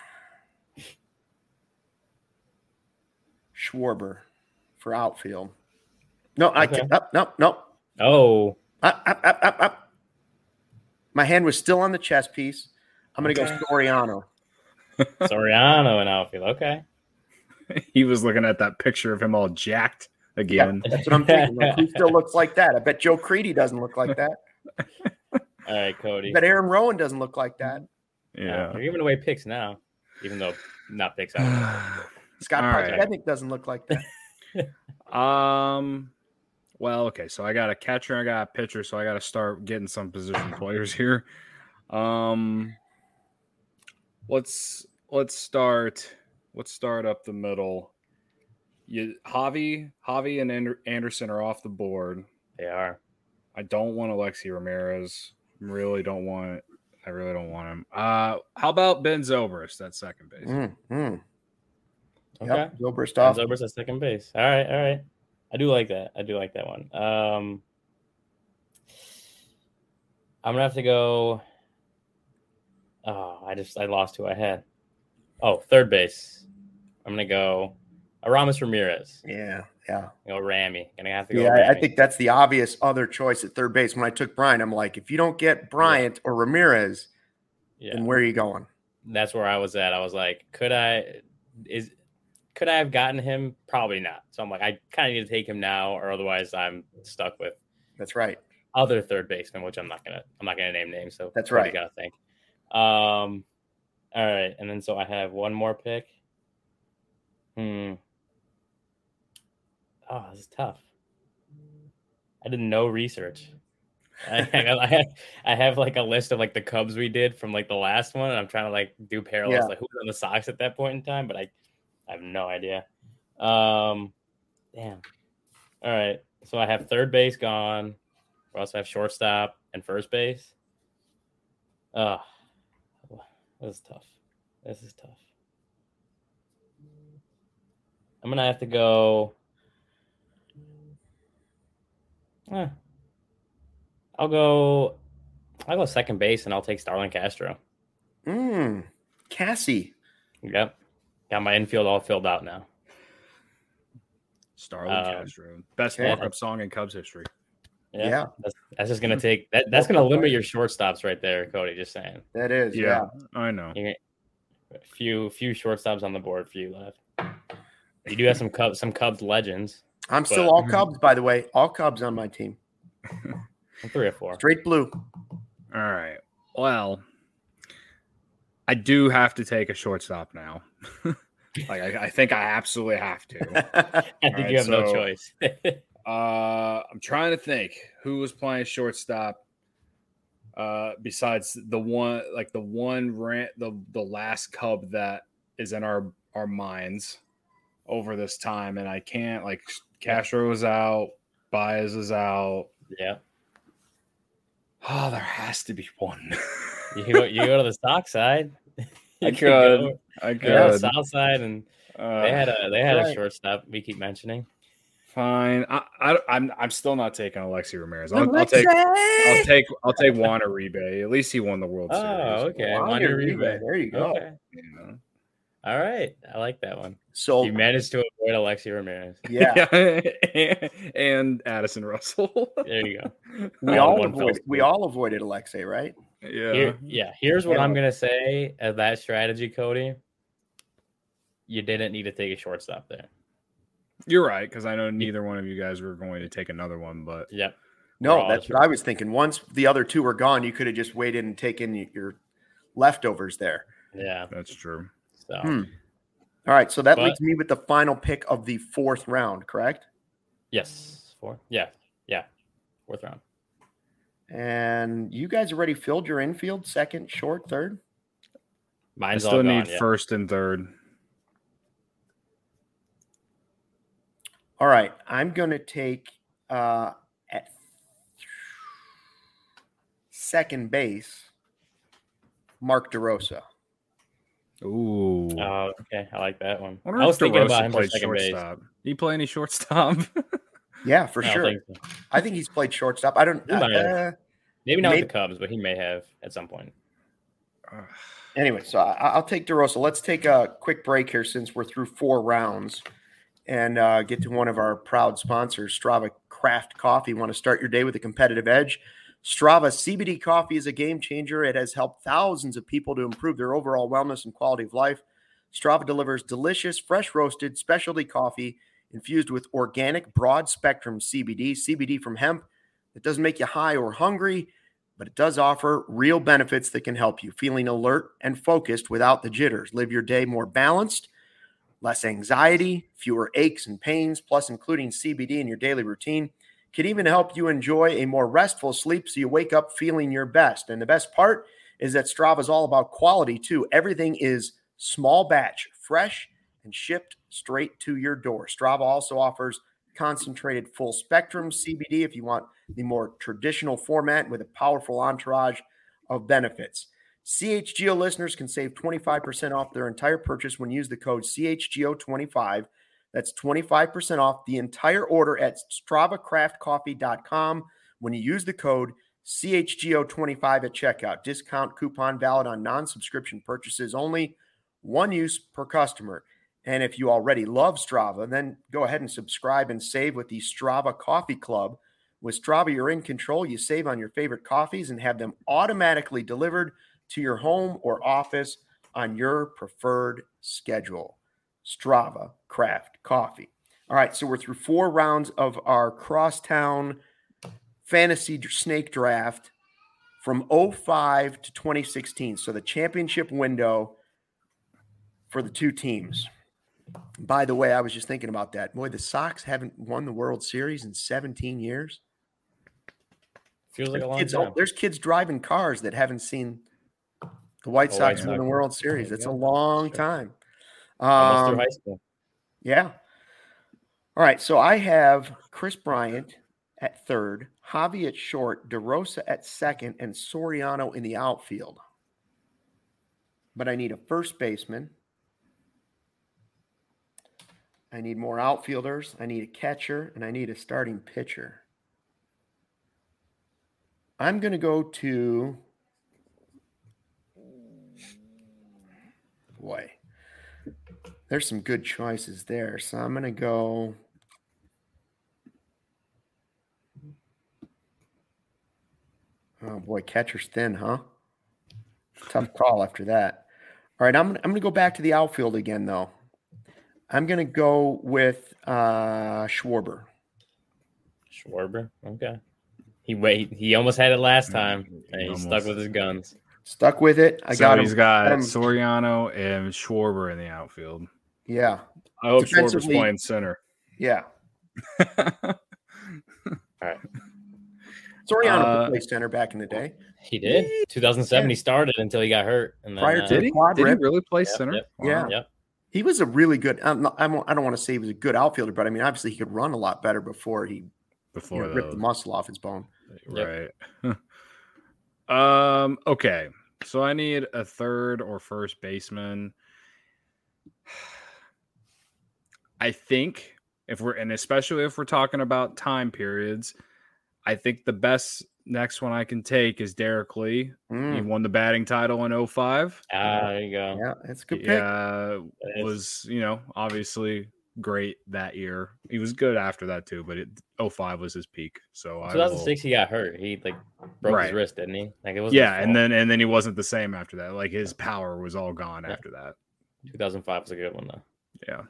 Schwarber for outfield. No, I Okay. can't. Up, no, no. Oh, Up, up, up, up, up. My hand was still on the chess piece. I'm going to Okay. go Soriano. Soriano in outfield. Okay. He was looking at that picture of him all jacked again. That's what I'm thinking. Like, who still looks like that? I bet Joe Creedy doesn't look like that. All right, I Cody. bet Aaron Rowan doesn't look like that. Yeah. You're giving away picks now, even though not picks out. Scott All right. Podsednik doesn't look like that. Um. Well, okay. So I got a catcher, I got a pitcher, so I got to start getting some position players here. Um. Let's let's start. Let's start up the middle. You Javi, Javi, and Ander- Anderson are off the board. They are. I don't want Alexi Ramirez. Really don't want. I really don't want him. Uh, how about Ben Zobrist at second base? Mm, mm. Okay. Yep, Zobrist off. Zobrist at second base. All right, all right. I do like that. I do like that one. Um, I'm gonna have to go. Oh, I just I lost who I had. Oh, third base. I'm gonna go Aramis Ramirez. Yeah, yeah. Go Ramy. Gonna have to go. Yeah, I, I Ramy. think that's the obvious other choice at third base. When I took Bryant, I'm like, if you don't get Bryant or Ramirez, Yeah, then where are you going? that's where I was at. I was like, could I? Is could I have gotten him? Probably not. So I'm like, I kind of need to take him now, or otherwise I'm stuck with That's right. other third baseman, which I'm not gonna I'm not gonna name names. So That's Cody right. Gotta think. Um, all right, and then so I have one more pick. Hmm. Oh, this is tough. I did no research. I, I have I have like a list of like the Cubs we did from like the last one, and I'm trying to like do parallels Yeah. like who was on the Sox at that point in time, but I, I have no idea. Um, damn. All right, so I have third base gone. We also have shortstop and first base. Oh, this is tough. This is tough. I'm gonna have to go. Eh, I'll go. I'll go second base, and I'll take Starlin Castro. Mm, Cassie. Yep, got my infield all filled out now. Starlin Um, Castro, best okay. walk-up song in Cubs history. Yeah, Yeah. That's, that's just gonna take that. That's gonna limit your shortstops right there, Cody. Just saying. That is, yeah. Yeah, I know. You get a few few shortstops on the board for you left. You do have some Cubs, some Cubs legends. I'm still But- all Cubs, by the way. All Cubs on my team. Three or four. Straight blue. All right. Well, I do have to take a shortstop now. like I, I think I absolutely have to. I think right, you have no so- choice. Uh, I'm trying to think who was playing shortstop. Uh, besides the one, like the one rant, the the last Cub that is in our our minds over this time, and I can't like Castro is out, Baez is out. Yeah, Oh, there has to be one. you go, you go to the Sox side. I You could, go- I go to the could. South side, and Uh, they had a they had right. a shortstop. We keep mentioning. Fine. I, I, I'm I'm still not taking Alexi Ramirez. I'll, I'll take I'll take I'll take Juan Uribe. At least he won the World Oh, Series. okay. Juan Wander Uribe. Uribe. There you go. Okay. You know? All right. I like that one. So, You managed to avoid Alexi Ramirez. yeah, and Addison Russell. There you go. we all all one fell avoided, we swoop. all avoided Alexei, right? yeah. Here, yeah. Here's what Yeah. I'm gonna say as that strategy, Cody. You didn't need to take a shortstop there. You're right, because I know neither one of you guys were going to take another one, but Yep. No, We're all that's sure. what I was thinking. Once the other two were gone, you could have just waited and taken your leftovers there. Yeah. that's true. So Hmm. All right, so that But- leaves me with the final pick of the fourth round, correct? yes, four. Yeah. Yeah. Fourth round. And you guys already filled your infield, second, short, third. I Mine's still all need gone, yeah. first and third. All right, I'm going to take uh, at second base, Mark DeRosa. Ooh. Oh, okay. I like that one. I I wonder was if thinking DeRosa about him for played second base. shortstop. Did he play any shortstop? Yeah, for I don't sure. think so. I think he's played shortstop. I don't. He might have. Uh, Maybe not Maybe- with the Cubs, but he may have at some point. anyway, so I, I'll take DeRosa. Let's take a quick break here since we're through four rounds, and uh, get to one of our proud sponsors, Strava Craft Coffee. Want to start your day with a competitive edge? Strava C B D coffee is a game changer. It has helped thousands of people to improve their overall wellness and quality of life. Strava delivers delicious, fresh roasted specialty coffee infused with organic broad spectrum C B D, C B D from hemp. It doesn't make you high or hungry, but it does offer real benefits that can help you feeling alert and focused without the jitters. Live your day more balanced, less anxiety, fewer aches and pains, plus including C B D in your daily routine can even help you enjoy a more restful sleep so you wake up feeling your best. And the best part is that Strava is all about quality too. Everything is small batch, fresh, and shipped straight to your door. Strava also offers concentrated full spectrum C B D if you want the more traditional format with a powerful entourage of benefits. C H G O listeners can save twenty-five percent off their entire purchase when you use the code C H G O twenty-five. That's twenty-five percent off the entire order at strava craft coffee dot com when you use the code C H G O twenty-five at checkout. Discount coupon valid on non-subscription purchases only. One use per customer. And if you already love Strava, then go ahead and subscribe and save with the Strava Coffee Club. With Strava, you're in control. You save on your favorite coffees and have them automatically delivered to your home or office on your preferred schedule. Strava Craft Coffee. All right, so we're through four rounds of our Crosstown Fantasy Snake Draft from oh five to twenty sixteen. So the championship window for the two teams. By the way, I was just thinking about that. Boy, the Sox haven't won the World Series in seventeen years. Feels like There's a long kids, time. there's kids driving cars that haven't seen the White The Sox White win the Sox. World Series. There you That's a go. long Sure. time. Almost through Um, high school. yeah. All right. So I have Chris Bryant at third, Javi at short, DeRosa at second, and Soriano in the outfield. But I need a first baseman. I need more outfielders. I need a catcher, and I need a starting pitcher. I'm going to go to, boy, there's some good choices there. So I'm going to go, oh boy, catcher's thin, huh? Tough call after that. All right, I'm, I'm going to go back to the outfield again, though. I'm going to go with uh, Schwarber. Schwarber. Okay. He wait. He almost had it last time, and he Almost. stuck with his guns. Stuck with it. I so got him. he's got got him. Soriano and Schwarber in the outfield. Yeah. I hope Schwarber's Defensively- playing center. Yeah. All right. Soriano Uh, could play center back in the day. He did. two thousand seven. He started until he got hurt, and then, Prior to uh, the Did he? quad Did he rip. really play Yep, center? yep. Yeah. Yep. He was a really good. I'm not, I'm, I don't want to say he was a good outfielder, but I mean, obviously, he could run a lot better before he you Before know, ripped the those. muscle off his bone. Right. um. Okay. So I need a third or first baseman. I think if we're and especially if we're talking about time periods, I think the best next one I can take is Derek Lee. He Mm, won the batting title in oh five. Ah, there you go. yeah, that's a good pick. Yeah, That is- was you know obviously great that year. He was good after that too, but it, oh five was his peak. So I two thousand will, six, he got hurt. He like broke Right. his wrist, didn't he? Like it was. yeah, and then and then he wasn't the same after that. Like his power was all gone Yeah. after that. two thousand five was a good one though. Yeah.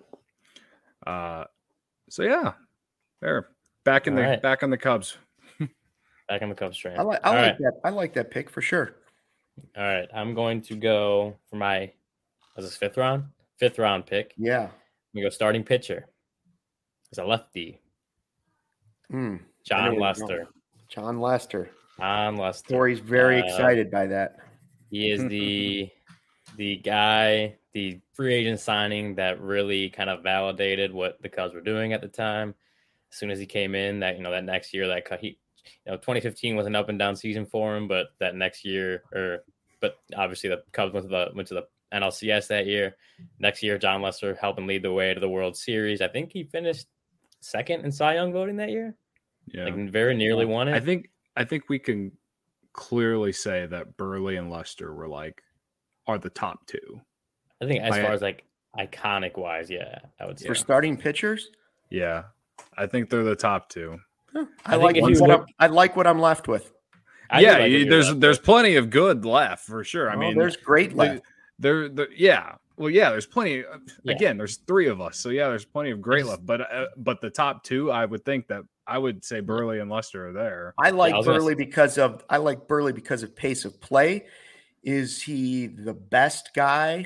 Uh, so yeah, there back in All the right. back on the Cubs. Back on the Cubs train. I like. I All like right. that. I like that pick for sure. All right. I'm going to go for my. Was this fifth round? Fifth round pick. Yeah. We go starting pitcher. It's a lefty. Mm, I know John where you're Lester. going. John Lester. John Lester. Corey's very Uh, excited by that. He is the the guy, the free agent signing that really kind of validated what the Cubs were doing at the time. As soon as he came in, that you know that next year, that cut he, you know, twenty fifteen was an up and down season for him, but that next year, or but obviously the Cubs went to the went to the N L C S that year. Next year, John Lester helping lead the way to the World Series. I think he finished second in Cy Young voting that year. Yeah, Like very nearly won it. I think I think we can clearly say that Burley and Lester were like are the top two. I think as I- far as like iconic wise, yeah, I would say. For starting pitchers, Yeah, I think they're the top two. Huh, I I, think like if what you I'm, look- I like what I'm left with. I do yeah, like you- when you're there's left there's with- plenty of good left for sure. I Oh, mean, there's great the- left. There, the, yeah. Well, yeah. There's plenty. uh, Yeah. Again, there's three of us, so yeah, there's plenty of great Just- left. But uh, but the top two, I would think that I would say Burley and Lester are there. I like I was gonna Burley say- because of I like Burley because of pace of play. Is he the best guy?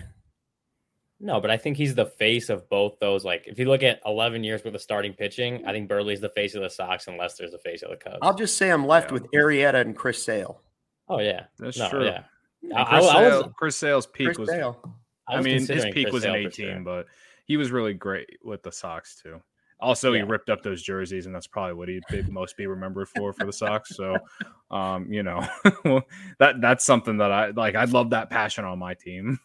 No, but I think he's the face of both those. Like, if you look at eleven years worth of starting pitching, I think Burley's the face of the Sox and Lester's the face of the Cubs. I'll just say I'm left Yeah. with Arrieta and Chris Sale. oh yeah, That's no, true. yeah. I, And I, Chris, I was, Sale, Chris Sale's peak Chris was. Sale. I, I was mean, his considering peak Chris was in Sale for eighteen, sure. but he was really great with the Sox too. Also, he Yeah. ripped up those jerseys, and that's probably what he'd be, most be remembered for for the Sox. So, um, you know, that that's something that I like. I'd love that passion on my team.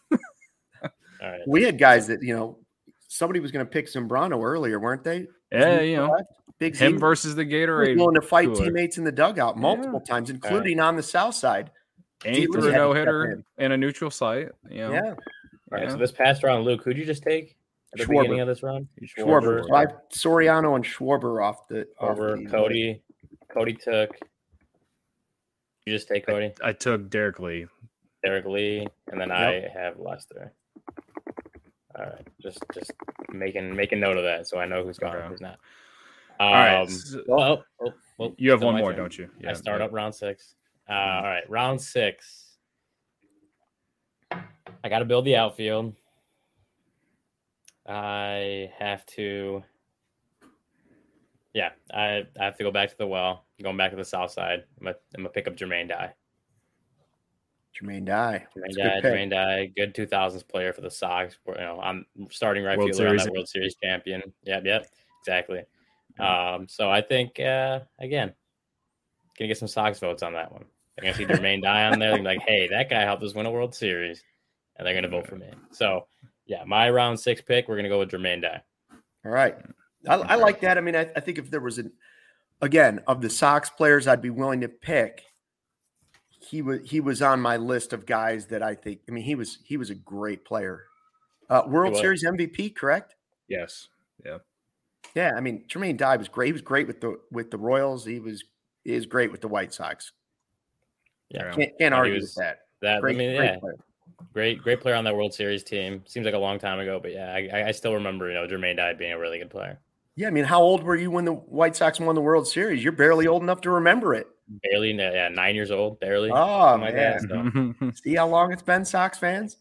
All right. We had guys that you know somebody was going to pick Zambrano earlier, weren't they? Yeah, you know, Big him Z versus the was Gatorade. willing to fight cooler. teammates in the dugout multiple times, including on the south side. And he He threw had a to no step hitter in a neutral site. You know? Yeah, All right. Yeah. So this past round, Luke, who'd you just take at the Schwarber. beginning of this round? Schwarber. So I have Soriano and Schwarber off the off Over the- Cody. Cody took. You just take Cody, I took Derek Lee. Derek Lee, and then Yep. I have Lester. All right, just just making making note of that so I know who's gone, Okay. who's not. All right, Um, so- oh, oh, oh, You have still one my more, turn. don't you? I start yeah. up round six. Uh, all right, round six. I got to build the outfield. I have to. Yeah, I, I have to go back to the well. Going back to the south side. I'm gonna, I'm gonna pick up Jermaine Dye. Jermaine Dye. Jermaine Dye, Jermaine Dye, good two thousands player for the Sox. You know, I'm starting right World fielder on Series. that World Series champion. Yep, yep, exactly. Um, so I think uh, again, gonna get some Sox votes on that one. I'm gonna see Jermaine Dye on there. They're like, hey, that guy helped us win a World Series, and they're gonna vote for me. So yeah, my round six pick, we're gonna go with Jermaine Dye. All right, I, I like that. I mean, I, I think if there was an again of the Sox players, I'd be willing to pick. He was he was on my list of guys that I think. I mean, he was he was a great player. Uh, World Series M V P, correct? Yes. Yeah. Yeah. I mean, Jermaine Dye was great. He was great with the with the Royals. He was he is great with the White Sox. Yeah, can't, can't argue was, with that. That great, I mean, great yeah, player. great great player on that World Series team. Seems like a long time ago, but yeah, I, I still remember you know Jermaine Dye being a really good player. Yeah, I mean, how old were you when the White Sox won the World Series? You're barely old enough to remember it. Barely, yeah, nine years old, barely. Oh, like man. That, so. See how long it's been, Sox fans?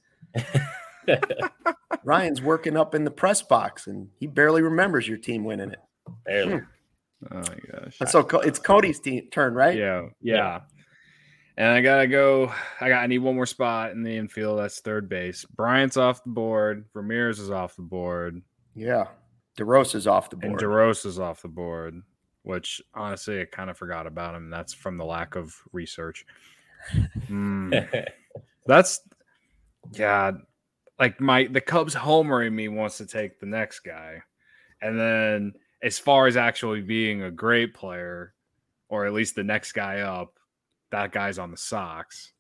Ryan's working up in the press box, and he barely remembers your team winning it. Barely. Hmm. Oh, my gosh. So it's Cody's team, turn, right? Yeah, yeah. Yeah. And I got to go. I got. I need one more spot in the infield. That's third base. Bryant's off the board. Ramirez is off the board. Yeah. DeRosa's off the board. And DeRosa's off the board, which honestly I kind of forgot about him. That's from the lack of research. Mm. That's yeah, like my the Cubs homer in me wants to take the next guy, and then as far as actually being a great player, or at least the next guy up, that guy's on the Sox.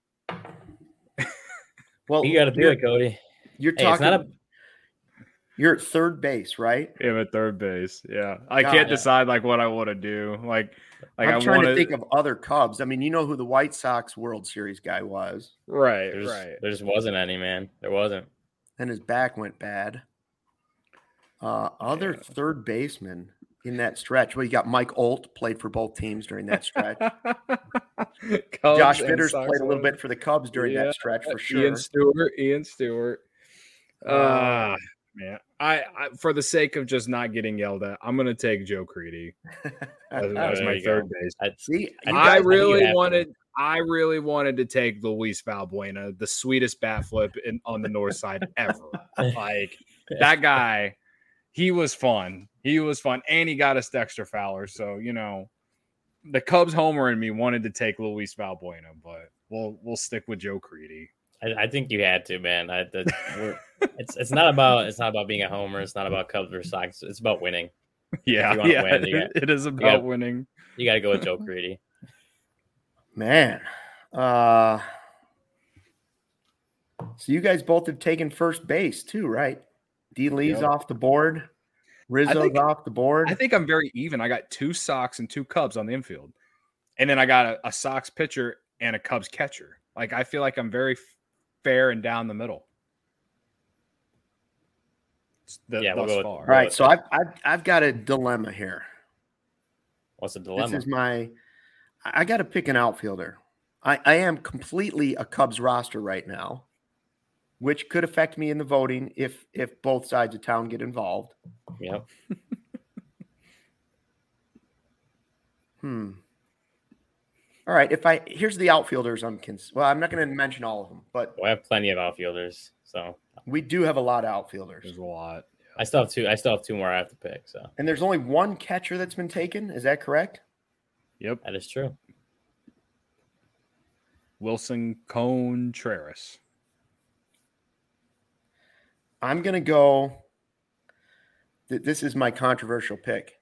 Well, you got to do it, Cody. You're hey, talking. It's not a, You're at third base, right? Yeah, I'm at third base. Yeah, I God, can't yeah. decide like what I want to do. Like, like I'm I trying wanna... to think of other Cubs. I mean, you know who the White Sox World Series guy was, right? There's, right. There just wasn't any, man. There wasn't. And his back went bad. Uh, other Yeah. third baseman in that stretch. Well, you got Mike Olt, played for both teams during that stretch. Josh Fitters played a little bit for the Cubs during yeah. that stretch for sure. Ian Stewart. Ian Stewart. Uh, man, I, I for the sake of just not getting yelled at, I'm gonna take Joe Creedy as, as my third go. base. I, See, I guys, really I wanted. To. I really wanted to take Luis Valbuena, the sweetest bat flip in, on the north side ever. Like that guy, he was fun. He was fun, and he got us Dexter Fowler. So you know, the Cubs homer in me wanted to take Luis Valbuena, but we'll we'll stick with Joe Creedy. I, I think you had to, man. I, the, we're, it's it's not about it's not about being a homer. It's not about Cubs versus Sox. It's about winning. Yeah, yeah, win, got, it is about gotta, winning. You got to go with Joe Creedy. Man, uh, so you guys both have taken first base too, right? D. Lee's yep. off the board. Rizzo's think, off the board. I think I'm very even. I got two Sox and two Cubs on the infield, and then I got a, a Sox pitcher and a Cubs catcher. Like I feel like I'm very fair and down the middle. The, yeah, we'll go with, all right. So I've, I've I've got a dilemma here. What's the dilemma? This is my. I got to pick an outfielder. I, I am completely a Cubs roster right now, which could affect me in the voting if if both sides of town get involved. Yep. hmm. All right. If I here's the outfielders, I'm cons- well. I'm not going to mention all of them, but we have plenty of outfielders. So we do have a lot of outfielders. There's a lot. Yeah. I still have two. I still have two more I have to pick. So and there's only one catcher that's been taken. Is that correct? Yep, that is true. Wilson Contreras. I'm going to go. Th- this is my controversial pick.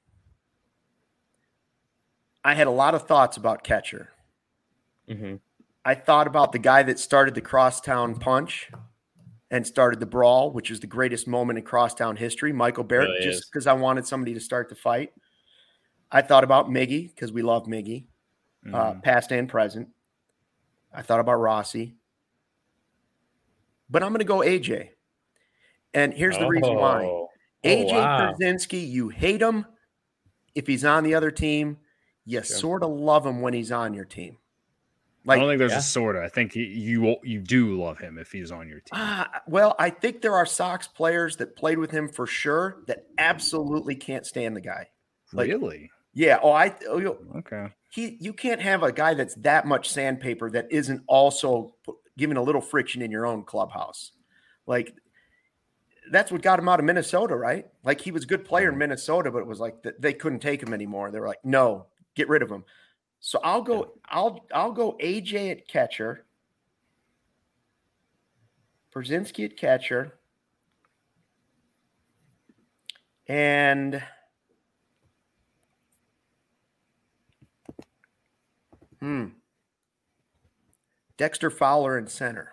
I had a lot of thoughts about catcher. Mm-hmm. I thought about the guy that started the crosstown punch and started the brawl, which is the greatest moment in crosstown history, Michael Barrett, really just because I wanted somebody to start the fight. I thought about Miggy because we love Miggy, mm-hmm. uh, past and present. I thought about Rossi. But I'm going to go A J. And here's the oh. reason why. Oh, A J wow. Pierzynski, you hate him if he's on the other team. You sure. sort of love him when he's on your team. Like, I don't think there's yeah. a sort of. I think you, you you do love him if he's on your team. Uh, well, I think there are Sox players that played with him for sure that absolutely can't stand the guy. Like, really? Yeah. Oh, I. Oh, you, Okay. he. You can't have a guy that's that much sandpaper that isn't also p- giving a little friction in your own clubhouse. Like, that's what got him out of Minnesota, right? Like, he was a good player in Minnesota, but it was like th- they couldn't take him anymore. They were like, no, get rid of him. So I'll go. I'll I'll go A J at catcher. Brzezinski at catcher. And hmm, Dexter Fowler in center.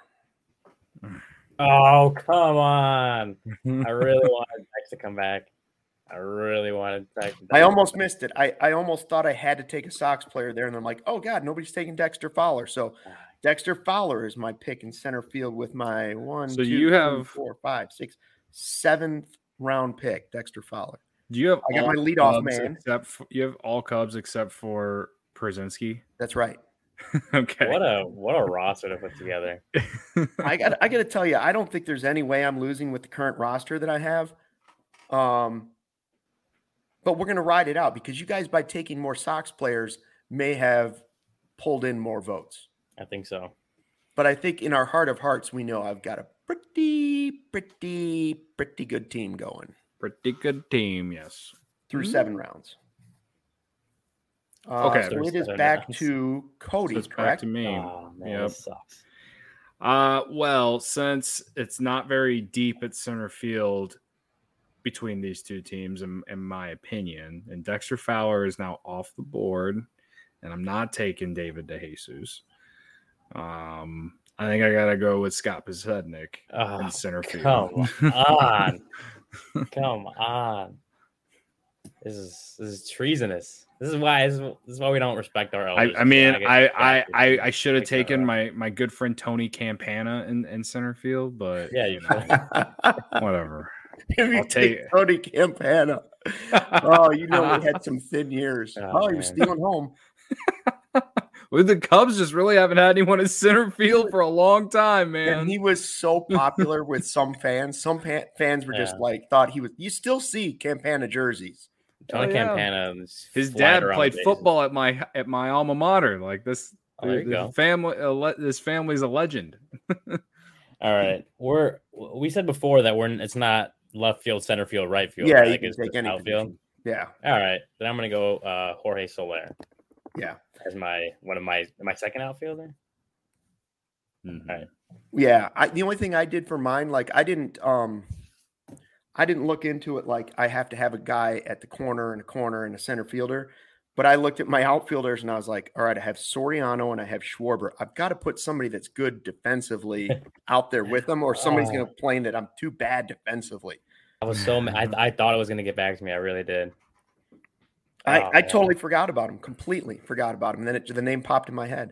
Oh, come on. I really wanted Dex to come back. I really wanted Dex. I almost missed it. I, I almost thought I had to take a Sox player there, and I'm like, oh, God, nobody's taking Dexter Fowler. So Dexter Fowler is my pick in center field with my one, So two, you three, have- four, five, six, seventh round pick, Dexter Fowler. Do you have I got all my leadoff Cubs man. Except for, you have all Cubs except for Przinski? That's right. Okay. What a what a roster to put together. I got I got to tell you, I don't think there's any way I'm losing with the current roster that I have. Um, but we're going to ride it out because you guys, by taking more Sox players, may have pulled in more votes. I think so. But I think in our heart of hearts, we know I've got a pretty, pretty, pretty good team going Pretty good team, yes. through Mm-hmm. seven rounds. Uh, Okay. so it is Seven back rounds. to Cody, So it's back correct? to me. Oh man, Yep. this sucks. Uh, well, since it's not very deep at center field between these two teams, in, in my opinion, and Dexter Fowler is now off the board, and I'm not taking David DeJesus. Um, I think I gotta go with Scott Podsednik Oh, in center field. come on. Come on. This is this is treasonous. This is why this is, this is why we don't respect our elders. I, I mean, This is I why I get I, I should have Makes that taken right. my my good friend Tony Campana in, in center field, but Yeah, you know, should. whatever. If you I'll take take- Tony Campana. Oh, you know, we had some thin years. Oh, Oh, he was man. stealing home. Well, the Cubs just really haven't had anyone in center field for a long time, man. And he was so popular with some fans. Some pa- fans were just Yeah. like, thought he was. You still see Campana jerseys. Tony Oh, yeah. Campana. is His flying dad around played the bases. football at my at my alma mater. Like this, Oh, there you this go. family, a le- this family's a legend. All right, we're we said before that we're it's not left field, center field, right field. Yeah, right? you Like can it's take just any outfield. position. Yeah, All right, then I'm gonna go uh, Jorge Soler yeah, as my one of my my second outfielder. Mhm. All right. yeah. I, the only thing I did for mine, like I didn't, um, I didn't look into it. Like I have to have a guy at the corner and a corner and a center fielder. But I looked at my outfielders and I was like, all right, I have Soriano and I have Schwarber. I've got to put somebody that's good defensively out there with them, or somebody's Oh. going to complain that I'm too bad defensively. I was so ma- I I thought it was gonna get back to me. I really did. I, Oh, I man. totally forgot about him, completely forgot about him. And then it, the name popped in my head.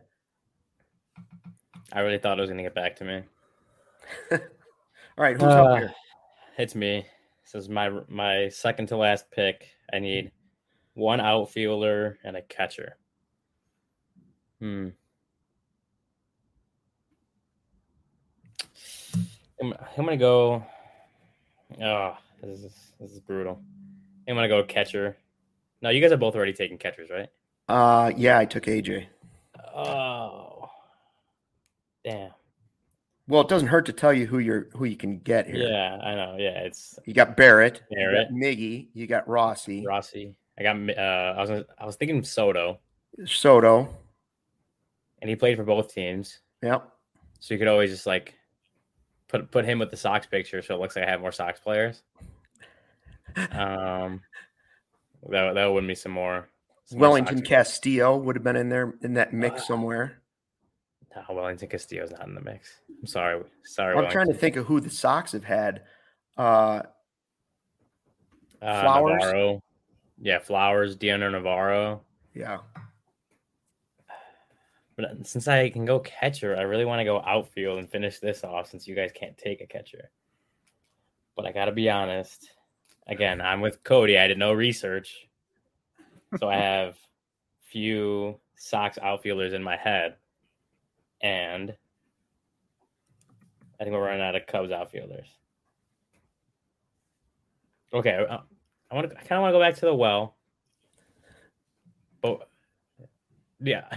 I really thought it was gonna get back to me. All right, who's Uh, up here? It's me. This is my my second to last pick. I need one outfielder and a catcher. Hmm. I'm, I'm gonna go. Oh, this is this is brutal. I'm gonna go catcher. No, you guys have both already taken catchers, right? Uh, yeah, I took A J. Oh, damn. Well, it doesn't hurt to tell you who you're who you can get here. Yeah, I know. Yeah, it's You got Barrett, Barrett. you got Miggy, you got Rossi, Rossi. I got. Uh, I was. I was thinking Soto, Soto. and he played for both teams, Yep. so you could always just like put put him with the Sox picture, so it looks like I have more Sox players. Um, that that would win me some more. some more Wellington Sox- Castillo would have been in there in that mix Uh, somewhere. No, Wellington Castillo's not in the mix. I'm sorry. Sorry. I'm trying to Wellington. think of who the Sox have had. Uh, Uh, Flowers? Navarro. Yeah, Flowers, Deanna Navarro. yeah. But since I can go catcher, I really want to go outfield and finish this off since you guys can't take a catcher. But I got to be honest. Again, I'm with Cody. I did no research. So I have few Sox outfielders in my head. And I think we're running out of Cubs outfielders. Okay. I, I want to. I kind of want to go back to the well. Oh, yeah.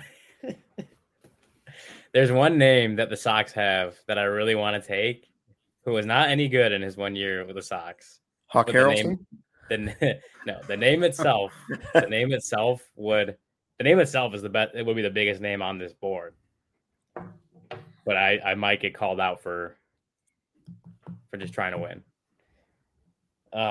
There's one name that the Sox have that I really want to take, who was not any good in his one year with the Sox. Hawk But the Harrelson? name, the, no, the name itself, the name itself would, the name itself is the best. It would be the biggest name on this board. But I, I might get called out for, for just trying to win. Uh,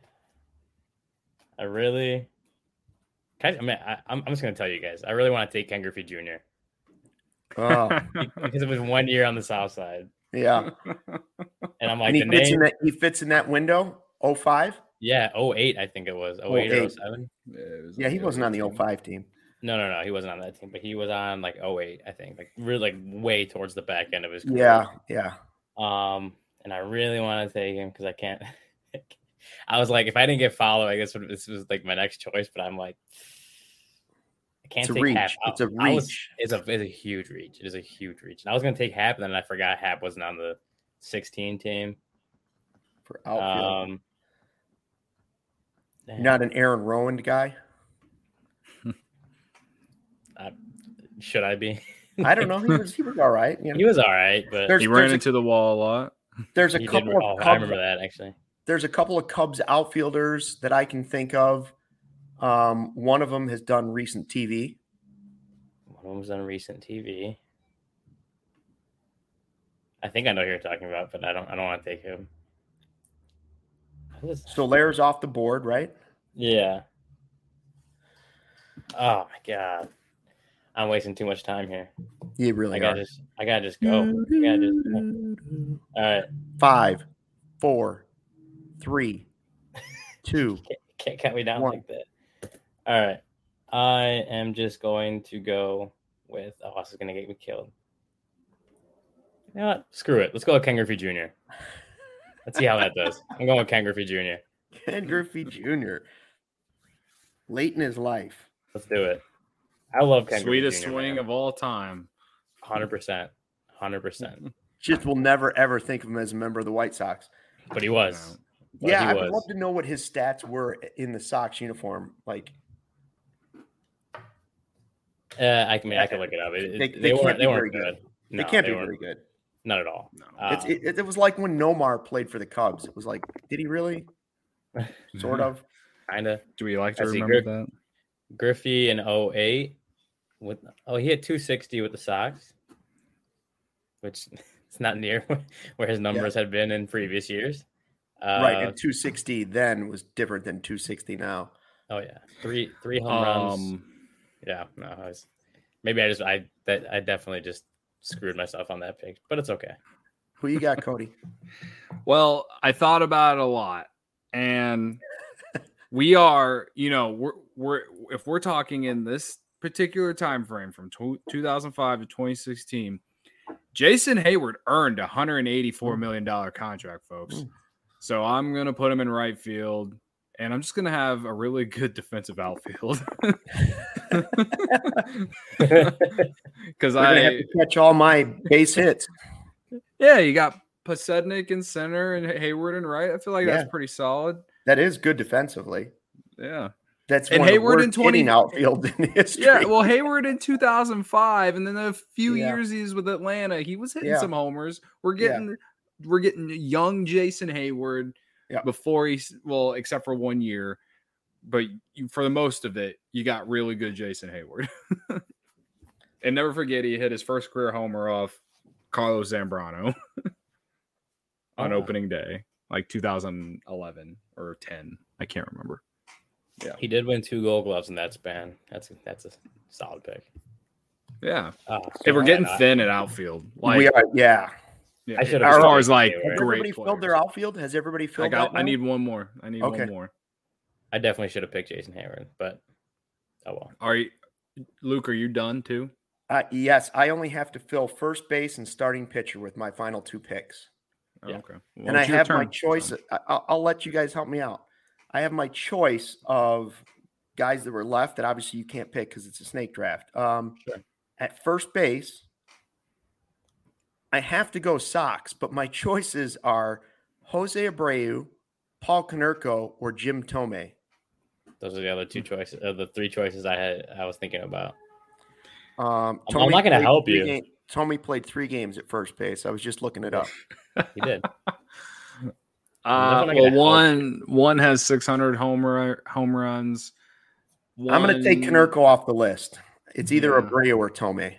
I really, can I, I mean, I, I'm, I'm just gonna tell you guys, I really want to take Ken Griffey Junior Oh, because it was one year on the South Side, yeah. and I'm like, And he the fits name, in that he fits in that window. oh five? yeah, oh eight, I think it was oh eight or oh seven. Yeah, it was Yeah, he like wasn't on the team. oh five team. No, no, no, he wasn't on that team, but he was on like oh eight, I think, like really like way towards the back end of his career. Yeah, yeah. Um, and I really want to take him because I can't. I was like, if I didn't get followed, I guess this was like my next choice. But I'm like, I can't It's a take reach. Hap. It's a I was- reach. it's a it's a huge reach. It is a huge reach. And I was gonna take Hap, and then I forgot Hap wasn't on the sixteen team. For outfield. Um, You're not an Aaron Rowan guy? should I be? I don't know. He was he was all right. You know? He was all right, but There's- He ran into the wall a lot. There's a he did. couple Oh, of I Cubs, remember that actually. there's a couple of Cubs outfielders that I can think of. Um, one of them has done recent T V. One of them was on recent T V. I think I know who you're talking about, but I don't. I don't want to take him. Who is- Solaire's off the board, right? Yeah. Oh my god, I'm wasting too much time here. You really I are. gotta just. I gotta just go. I gotta just go. All right. Five, four, three, two. Can't, can't cut me down One. like that. All right. I am just going to go with. Oh, this is gonna get me killed. You know what? Screw it. Let's go with Ken Griffey Junior Let's see how that does. I'm going with Ken Griffey Junior Ken Griffey Junior Late in his life. Let's do it. I love Ken Sweetest Griffey Junior swing man. of all time. one hundred percent. one hundred percent. Just will never ever think of him as a member of the White Sox. But he was. But yeah, he I would was. love to know what his stats were in the Sox uniform. Like Uh, I can mean I can look it up. It, They- it- they they, can't weren't. be They weren't very good. good. No, they can't be weren't. very good. Not at all. No. Uh, It's, it, it was like when Nomar played for the Cubs. It was like, did he really? Sort of. kind of. Do we like to I see remember Griff- that? Griffey in oh eight with oh he had two sixty with the Sox, which it's not near where his numbers had been in previous years. Uh, Right. And two sixty then was different than two sixty now. Oh yeah, three three home runs. Um, Yeah, no, I was maybe I just I that I definitely just screwed myself on that pick, but it's okay. Who you got, Cody? Well, I thought about it a lot, and we are, you know, we're we're if we're talking in this particular time frame from two thousand five to twenty sixteen, Jason Hayward earned a one hundred eighty-four million dollars contract, folks. Mm. So I'm gonna put him in right field, and I'm just gonna have a really good defensive outfield because We're gonna have I to catch all my base hits. yeah, you got Pasednik in center and Hayward in right. I feel like Yeah. that's pretty solid. That is good defensively. Yeah. That's And one Hayward of in the worst hitting twenty outfield in history. Yeah, well, Hayward in two thousand five, and then a few Yeah. years he's with Atlanta, he was hitting Yeah. some homers. We're Yeah. getting we're getting young Jason Hayward Yeah. before he's well, except for one year, but you, for the most of it, you got really good Jason Hayward. And never forget, he hit his first career homer off Carlos Zambrano on Oh. opening day, like two thousand eleven or ten. I can't remember. Yeah, He did win two Gold Gloves in that span. That's a, that's a solid pick. yeah. Oh, Hey, we're so getting I- thin at outfield. Like, we are, yeah. yeah, I should've as far started as like Hayward. Has great everybody filled players. their outfield? Has everybody I filled got. that I now? need one more. I need Okay. one more. I definitely should have picked Jason Hayward, but oh well. Are you, Luke? Are you done too? Uh, yes, I only have to fill first base and starting pitcher with my final two picks. Oh, Yeah. okay. Well, and I it's your have my turn, choice. so. I, I'll, I'll let you guys help me out. I have my choice of guys that were left that obviously you can't pick because it's a snake draft. Um, Sure. At first base, I have to go Sox, but my choices are Jose Abreu, Paul Konerko, or Jim Tomei. Those are the other two choices, uh, the three choices I had. I was thinking about. Um, I'm, I'm not going to help you. Game, Tommy played three games at first base. I was just looking it up. He did. Uh, well, one one has six hundred home, run, home runs. One... I'm going to take Konerko off the list. It's either yeah. Abreu or Tomei.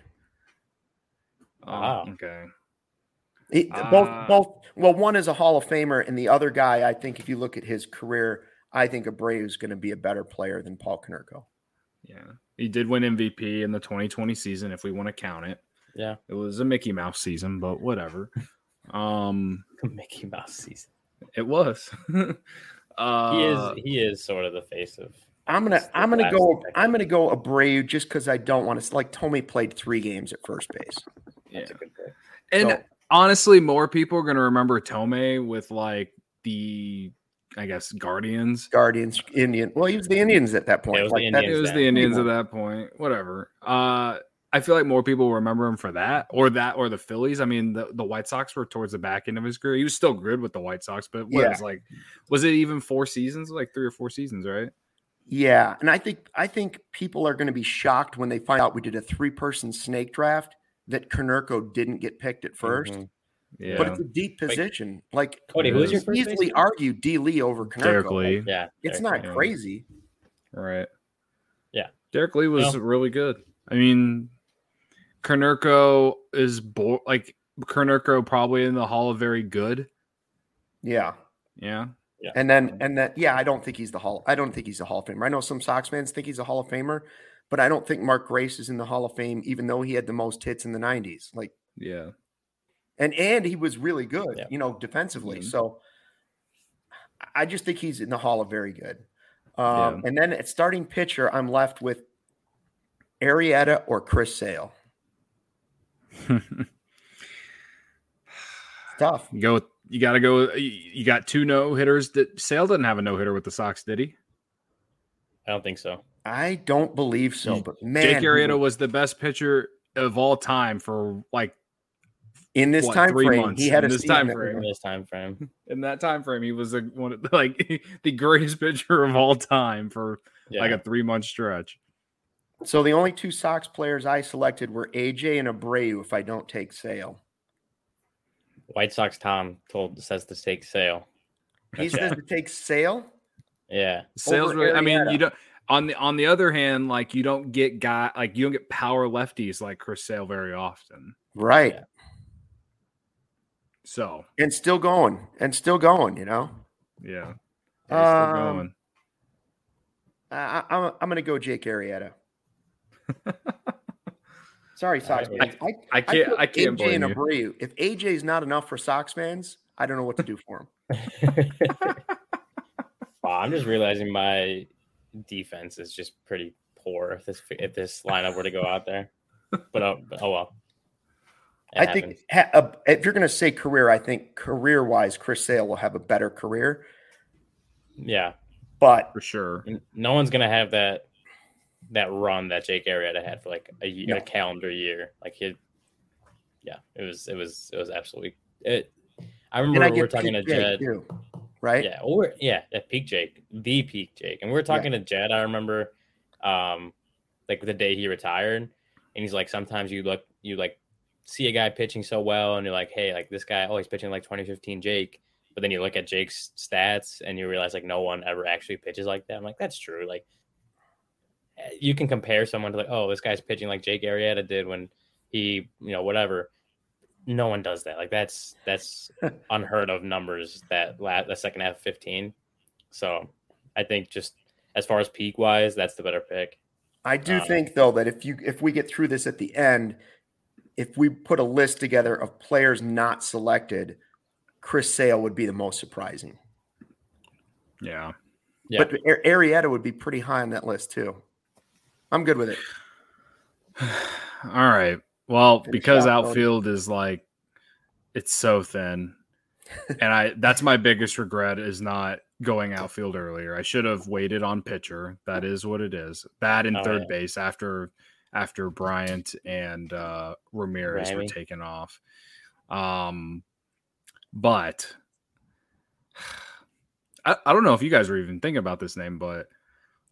Wow. Oh, okay. He, uh, both, both. Well, one is a Hall of Famer, and the other guy, I think, if you look at his career, I think Abreu is going to be a better player than Paul Konerko. Yeah, he did win M V P in the twenty twenty season, if we want to count it. Yeah, it was a Mickey Mouse season, but whatever. Um, Mickey Mouse season. It was. uh, he is. He is sort of the face of. I'm gonna. I'm gonna go. Decade. I'm gonna go Abreu just because I don't want to. Like Tomei played three games at first base. Yeah. That's a good pick. And so, honestly, more people are gonna remember Tomei with like the, I guess, Guardians. Guardians, Indian. Well, he was the Indians at that point. Yeah, it was like the that, Indians, it was the Indians at that point. Whatever. Uh, I feel like more people remember him for that, or that, or the Phillies. I mean, the, the White Sox were towards the back end of his career. He was still good with the White Sox, but what yeah. was like, was it even four seasons? Like three or four seasons, right? Yeah, and I think I think people are going to be shocked when they find out we did a three-person snake draft that Konerko didn't get picked at first. Mm-hmm. Yeah, but it's a deep position. Like Cody, who's your first easily argue D. Lee over Konerko. Derek Lee. Like, yeah, it's Derek not Lee. crazy. Right. Yeah, Derek Lee was no. really good. I mean, Konerko is bo- like Konerko probably in the Hall of Very Good. Yeah. Yeah. Yeah. And then and then yeah, I don't think he's the Hall. I don't think he's a Hall of Famer. I know some Sox fans think he's a Hall of Famer, but I don't think Mark Grace is in the Hall of Fame, even though he had the most hits in the nineties. Like, yeah. And and he was really good, yeah. you know, defensively. Mm-hmm. So I just think he's in the Hall of Very Good. Um, yeah. And then at starting pitcher, I'm left with Arrieta or Chris Sale. Tough. You go. With, you got to go. You got two no hitters. That Sale didn't have a no hitter with the Sox, did he? I don't think so. I don't believe so. But man, Jake Arrieta was the best pitcher of all time for like in this what, time three frame. months. He had in a this time frame. In this time frame. In that time frame, he was a, one of, like the greatest pitcher of all time for yeah. like a three month stretch. So the only two Sox players I selected were A J and Abreu. If I don't take Sale. White Sox Tom told says to take Sale. He says to take Sale. Yeah, Sale's really. I mean, you don't. On the on the other hand, like you don't get guy like you don't get power lefties like Chris Sale very often. Right. Yeah. So and still going and still going. You know. Yeah. Um, still going. I, I'm I'm going to go Jake Arrieta. Sorry, Sox I, fans. I, I can't. I, I can't A J blame and you. Abreu. If A J is not enough for Sox fans, I don't know what to do for him. Wow, I'm just realizing my defense is just pretty poor if this if this lineup were to go out there. But oh, oh well. It I happens. think ha, uh, if you're going to say career, I think career-wise, Chris Sale will have a better career. Yeah, but for sure, no one's going to have that. that run that Jake Arrieta had for like a, year, no. a calendar year. Like he, yeah, it was, it was, it was absolutely it. I remember we were talking to Jed, too, right? Yeah. Or yeah, at peak Jake, the peak Jake. And we were talking yeah. to Jed. I remember, um, like the day he retired and he's like, sometimes you look, you like see a guy pitching so well and you're like, hey, like this guy, oh, he's pitching like twenty fifteen Jake. But then you look at Jake's stats and you realize like no one ever actually pitches like that. I'm like, that's true. Like, you can compare someone to like, oh, this guy's pitching like Jake Arrieta did when he, you know, whatever. No one does that. Like that's that's unheard of numbers that last the second half of fifteen. So I think just as far as peak wise, that's the better pick. I do um, think though that if you if we get through this at the end, if we put a list together of players not selected, Chris Sale would be the most surprising. Yeah. Yeah. But Arrieta would be pretty high on that list too. I'm good with it. All right. Well, Finish because out, outfield is like it's so thin. And I that's my biggest regret is not going outfield earlier. I should have waited on pitcher. That is what it is. That in Oh, third yeah. base after after Bryant and uh, Ramirez Grammy. were taken off. Um, but I, I don't know if you guys were even thinking about this name, but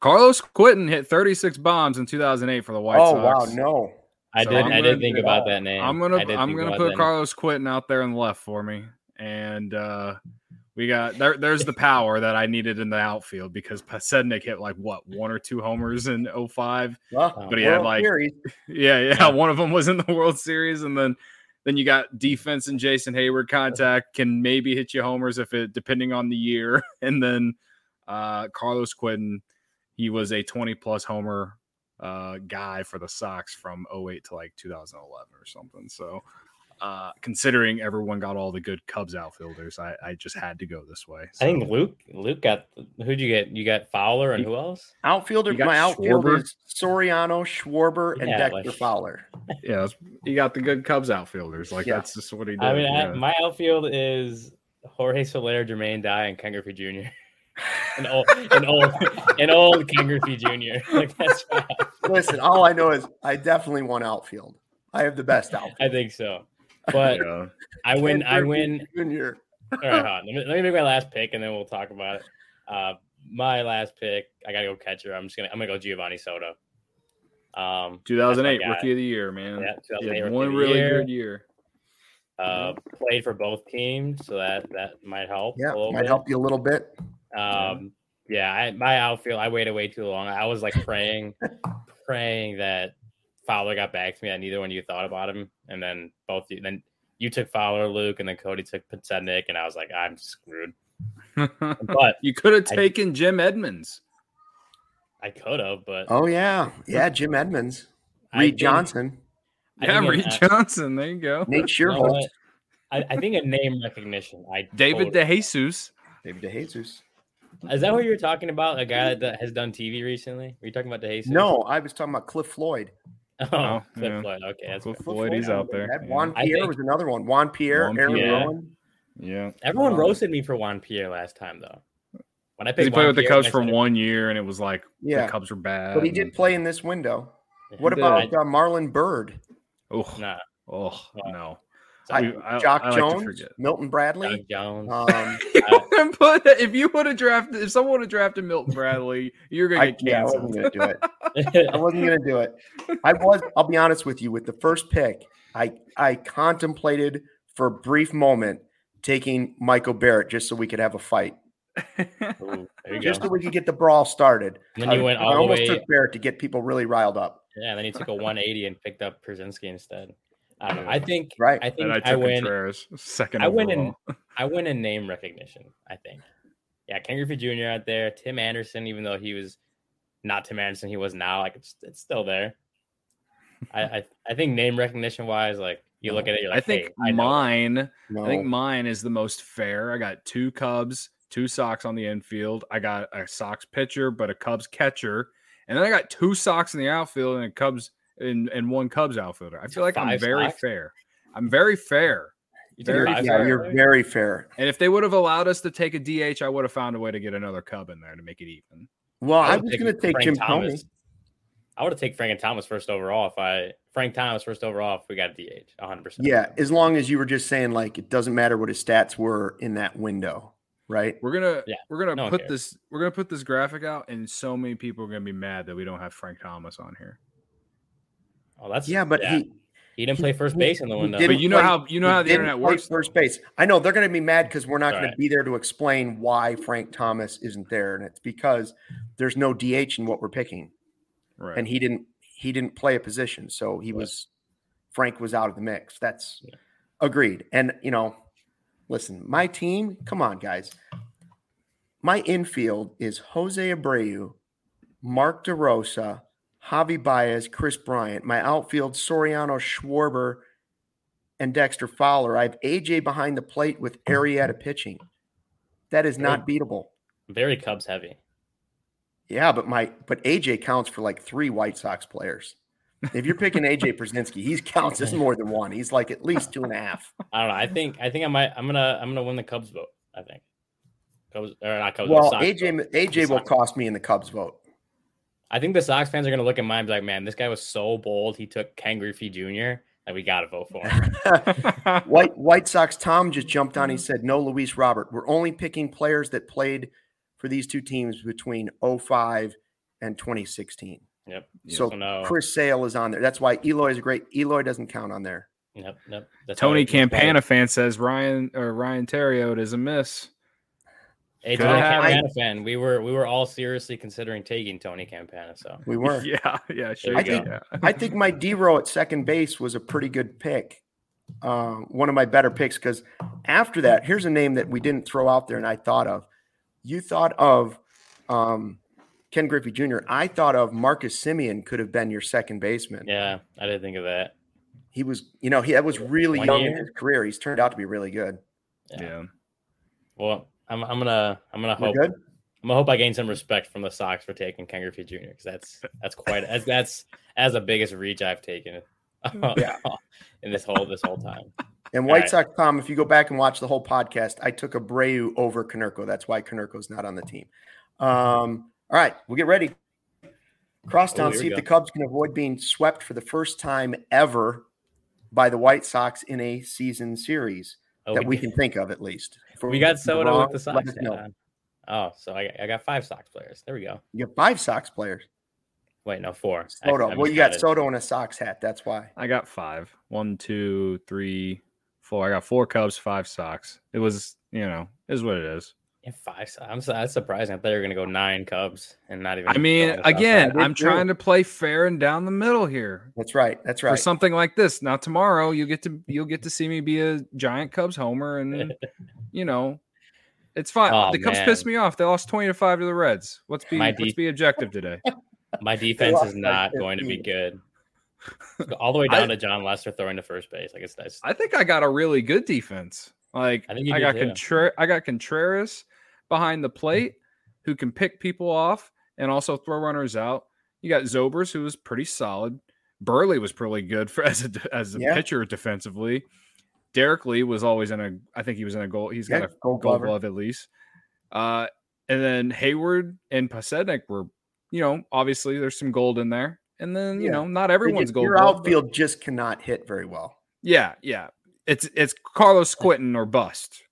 Carlos Quentin hit thirty-six bombs in two thousand eight for the White oh, Sox. wow, no. I So did. I'm I gonna- did think about that name. I'm gonna I did I'm think gonna about put that Carlos Quentin out there in the left for me, and uh, we got there. There's the power that I needed in the outfield because Pasednik hit like what one or two homers in oh five. Well, But he had, World like- Series. Yeah, yeah, Yeah. One of them was in the World Series, and then then you got defense and Jason Hayward contact can maybe hit you homers if it depending on the year, and then uh, Carlos Quentin, he was a twenty plus homer uh, guy for the Sox from oh eight to like two thousand eleven or something. So uh, considering everyone got all the good Cubs outfielders, I, I just had to go this way. So. I think Luke Luke got who'd you get? You got Fowler and who else? Outfielder, You got my outfield Schwarber. is Soriano, Schwarber, and Yeah, Dexter like- Fowler. Yeah, that's- you got the good Cubs outfielders. Like Yeah. that's just what he did. I mean, I, yeah. my outfield is Jorge Soler, Jermaine Dye, and Ken Griffey Junior an old, an old, an old Ken Griffey Junior Like that's my outfield. Listen, all I know is I definitely won outfield. I have the best outfield. I think so. But Yeah. I win. Ken I Griffey win. Junior All right, hold on. Let me, let me make my last pick, and then we'll talk about it. Uh, my last pick, I gotta go catcher. I'm just gonna. I'm gonna go Giovanni Soto. Um, two thousand eight that's my guy. Rookie of the Year, man. Yeah, He two thousand eight had Rookie one of the really Year. good year. Uh, played for both teams, so that that might help. Yeah, a little might bit. help you a little bit. Um, yeah, I, my outfield, I waited way too long. I was like praying, praying that Fowler got back to me. That neither one of you thought about him, and then both you, then you took Fowler, Luke, and then Cody took Pasednik, and I was like, I'm screwed. But You could have I- taken Jim Edmonds. I could have, but Oh yeah, yeah. Jim Edmonds, I Reed think- Johnson, I Yeah, think Reed an- Johnson. There you go. Nate you know Shearholtz, what? I, I think a name recognition. I David totally- DeJesus. David DeJesus. Is that what you were talking about? A guy that has done T V recently? Were you talking about DeJesus? No, I was talking about Cliff Floyd. Oh, Oh, Cliff yeah. Floyd. Okay, that's Cliff fair. Floyd, he's out there. That Yeah. Juan I Pierre think- was another one. Juan Pierre, Juan Aaron Pierre. Rowan. Yeah. Everyone Um, roasted me for Juan Pierre last time, though. When I Because picked he played Juan with the Pierre, Cubs I for said- one year, and it was like Yeah. the Cubs were bad. But he did play in this window. Yeah. What He about did. uh, Marlon Bird, Oh, Nah, oh no. I- We- I- Jock I like to Jones, forget. Milton Doug Bradley? Jones. Um, But if you would have drafted, if someone would have drafted Milton Bradley, you're gonna I, get yeah, I canceled. wasn't going to do it. I wasn't going to do it. I was. I'll be honest with you. With the first pick, I I contemplated for a brief moment taking Michael Barrett just so we could have a fight, Ooh, there you just go. so we could get the brawl started. And then you I, went I all the almost way. took Barrett to get people really riled up. Yeah, and then you took a one eighty and picked up Przinsky instead. I don't know. I think. Right. I think And I I, took win. Contreras second. I win in. overall. I win in name recognition. I think. Yeah, Ken Griffey Junior out there. Tim Anderson, even though he was not Tim Anderson, he was now. Like it's it's still there. I I, I think name recognition wise, like you look at it, you're like, I think hey, I know. mine. No. I think mine is the most fair. I got two Cubs, two Sox on the infield. I got a Sox pitcher, but a Cubs catcher, and then I got two Sox in the outfield and a Cubs and, and one Cubs outfielder. I feel like I'm Five very Sox? fair. I'm very fair. You took very five yeah, Sox you're already? very fair. And if they would have allowed us to take a D H, I would have found a way to get another Cub in there to make it even. Well, I, would was take going to take Frank Jim Thomas. Thome. I would have taken Frank and Thomas first overall if I Frank Thomas first overall if we got a D H, one hundred percent. Yeah, as long as you were just saying like it doesn't matter what his stats were in that window, right? We're gonna Yeah, we're gonna no one put cares. this we're gonna put this graphic out, and so many people are gonna be mad that we don't have Frank Thomas on here. Oh, that's Yeah, but he he didn't play first he- base in the he window. didn't But you know play- how you know he how the didn't internet play works. First base. I know they're going to be mad because we're not All going right. to be there to explain why Frank Thomas isn't there, and it's because there's no D H in what we're picking, Right. and he didn't he didn't play a position, so he Right. was Frank was out of the mix. That's Yeah. agreed. And you know, listen, my team. Come on, guys. My infield is Jose Abreu, Mark DeRosa, Javi Baez, Chris Bryant. My outfield, Soriano, Schwarber, and Dexter Fowler. I have A J behind the plate with Arrieta pitching. That is not beatable. Very Cubs heavy. Yeah, but my but A J counts for like three White Sox players. If you're picking A J Przinsky, he counts as more than one. He's like at least two and a half. I don't know. I think I think I might I'm gonna I'm gonna win the Cubs vote. I think. Cubs or not Cubs. the Well, Sox A J vote. A J The will Sox. cost me in the Cubs vote. I think the Sox fans are gonna look at mine and be like, man, this guy was so bold. He took Ken Griffey Junior Like we gotta vote for him. White White Sox Tom just jumped on. He said, "No, Luis Robert. We're only picking players that played for these two teams between oh five and twenty sixteen. Yep. So So no. Chris Sale is on there. That's why Eloy is great. Eloy doesn't count on there. Yep. Yep. That's Tony why- that's why- Campana fan says Ryan or Ryan Terriot is a miss. Hey, Could Tony have- Campana fan. We were we were all seriously considering taking Tony Campana. So We were. Yeah, yeah, sure. I you think- go. I think my D-row at second base was a pretty good pick. Uh, one of my better picks, because after that, here's a name that we didn't throw out there and I thought of. You thought of um, Ken Griffey Junior I thought of Marcus Simeon could have been your second baseman. yeah, I didn't think of that. He was, you know, he that was really One young year. in his career. He's turned out to be really good. Yeah. Yeah. Well, I'm I'm gonna I'm gonna We're hope good? I'm gonna hope I gain some respect from the Sox for taking Ken Griffey Junior because that's that's quite as that's as the biggest reach I've taken Yeah. in this whole this whole time. And All White right. Sox Tom, if you go back and watch the whole podcast, I took Abreu over Konerko. That's why Konerko's not on the team. Um, all right, we'll get ready. Crosstown, Oh, here see we if the go. Cubs can avoid being swept for the first time ever by the White Sox in a season series Oh, that we did- can think of, at least. If we got we're Soto wrong, with the let Sox. us know. hat on. Oh, so I I got five Sox players. There we go. You got five Sox players. Wait, no, four. I- Soto. I well, you got miscounted. Soto in a Sox hat. That's why. I got five. One, two, three, four. I got four Cubs, five Sox. It was, you know, is what it is. Yeah, five. So- I'm so, that's surprising. I thought you were gonna go nine Cubs and not even. I mean, go on the Sox again, side. I did I'm too. trying to play fair and down the middle here. That's right. That's For right. something like this. Now tomorrow you get to you'll get to see me be a giant Cubs homer, and you know, it's fine. Oh, the Cubs man. pissed me off. They lost twenty to five to the Reds. Let's be My let's D- be objective today. my defense lost is by not going to be fifteen. good. All the way down I- to John Lester throwing to first base. I guess that's. I think I got a really good defense. Like I I, think you got did, too. Contra- I got Contreras behind the plate who can pick people off and also throw runners out. You got Zobers, who was pretty solid. Burley was pretty good for as a as a Yeah. pitcher defensively. Derek Lee was always in a. I think he was in a goal. He's Yeah, got a Gold gold Glover. glove at least. Uh, and then Hayward and Pasednik were, you know, obviously there's some gold in there. And then you Yeah. know, not everyone's gold. Your glove, but- outfield just cannot hit very well. yeah, yeah. It's it's Carlos Quentin or bust.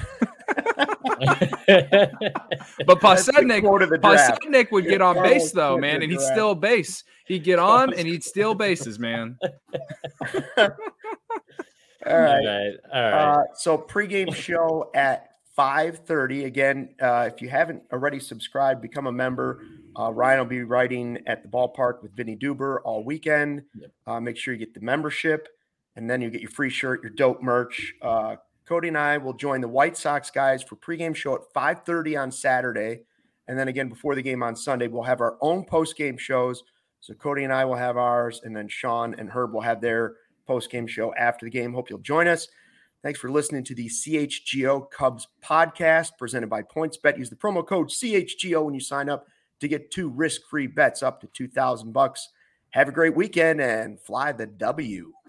But That's the Pasednik, quote of the draft. Pasednik would get on Carlos base though, Quentin man, and he'd draft. steal base. He'd get on and he'd steal bases, man. All all right. right, all right. Uh, so pregame show at five thirty. Again, uh, if you haven't already subscribed, become a member. Uh, Ryan will be writing at the ballpark with Vinny Duber all weekend. Yep. Uh, make sure you get the membership, and then you get your free shirt, your dope merch. Uh, Cody and I will join the White Sox guys for pregame show at five thirty on Saturday. And then again, before the game on Sunday, we'll have our own postgame shows. So Cody and I will have ours, and then Sean and Herb will have their postgame show after the game. Hope you'll join us. Thanks for listening to the C H G O Cubs podcast presented by PointsBet. Use the promo code C H G O when you sign up to get two risk-free bets up to two thousand bucks. Have a great weekend and fly the W.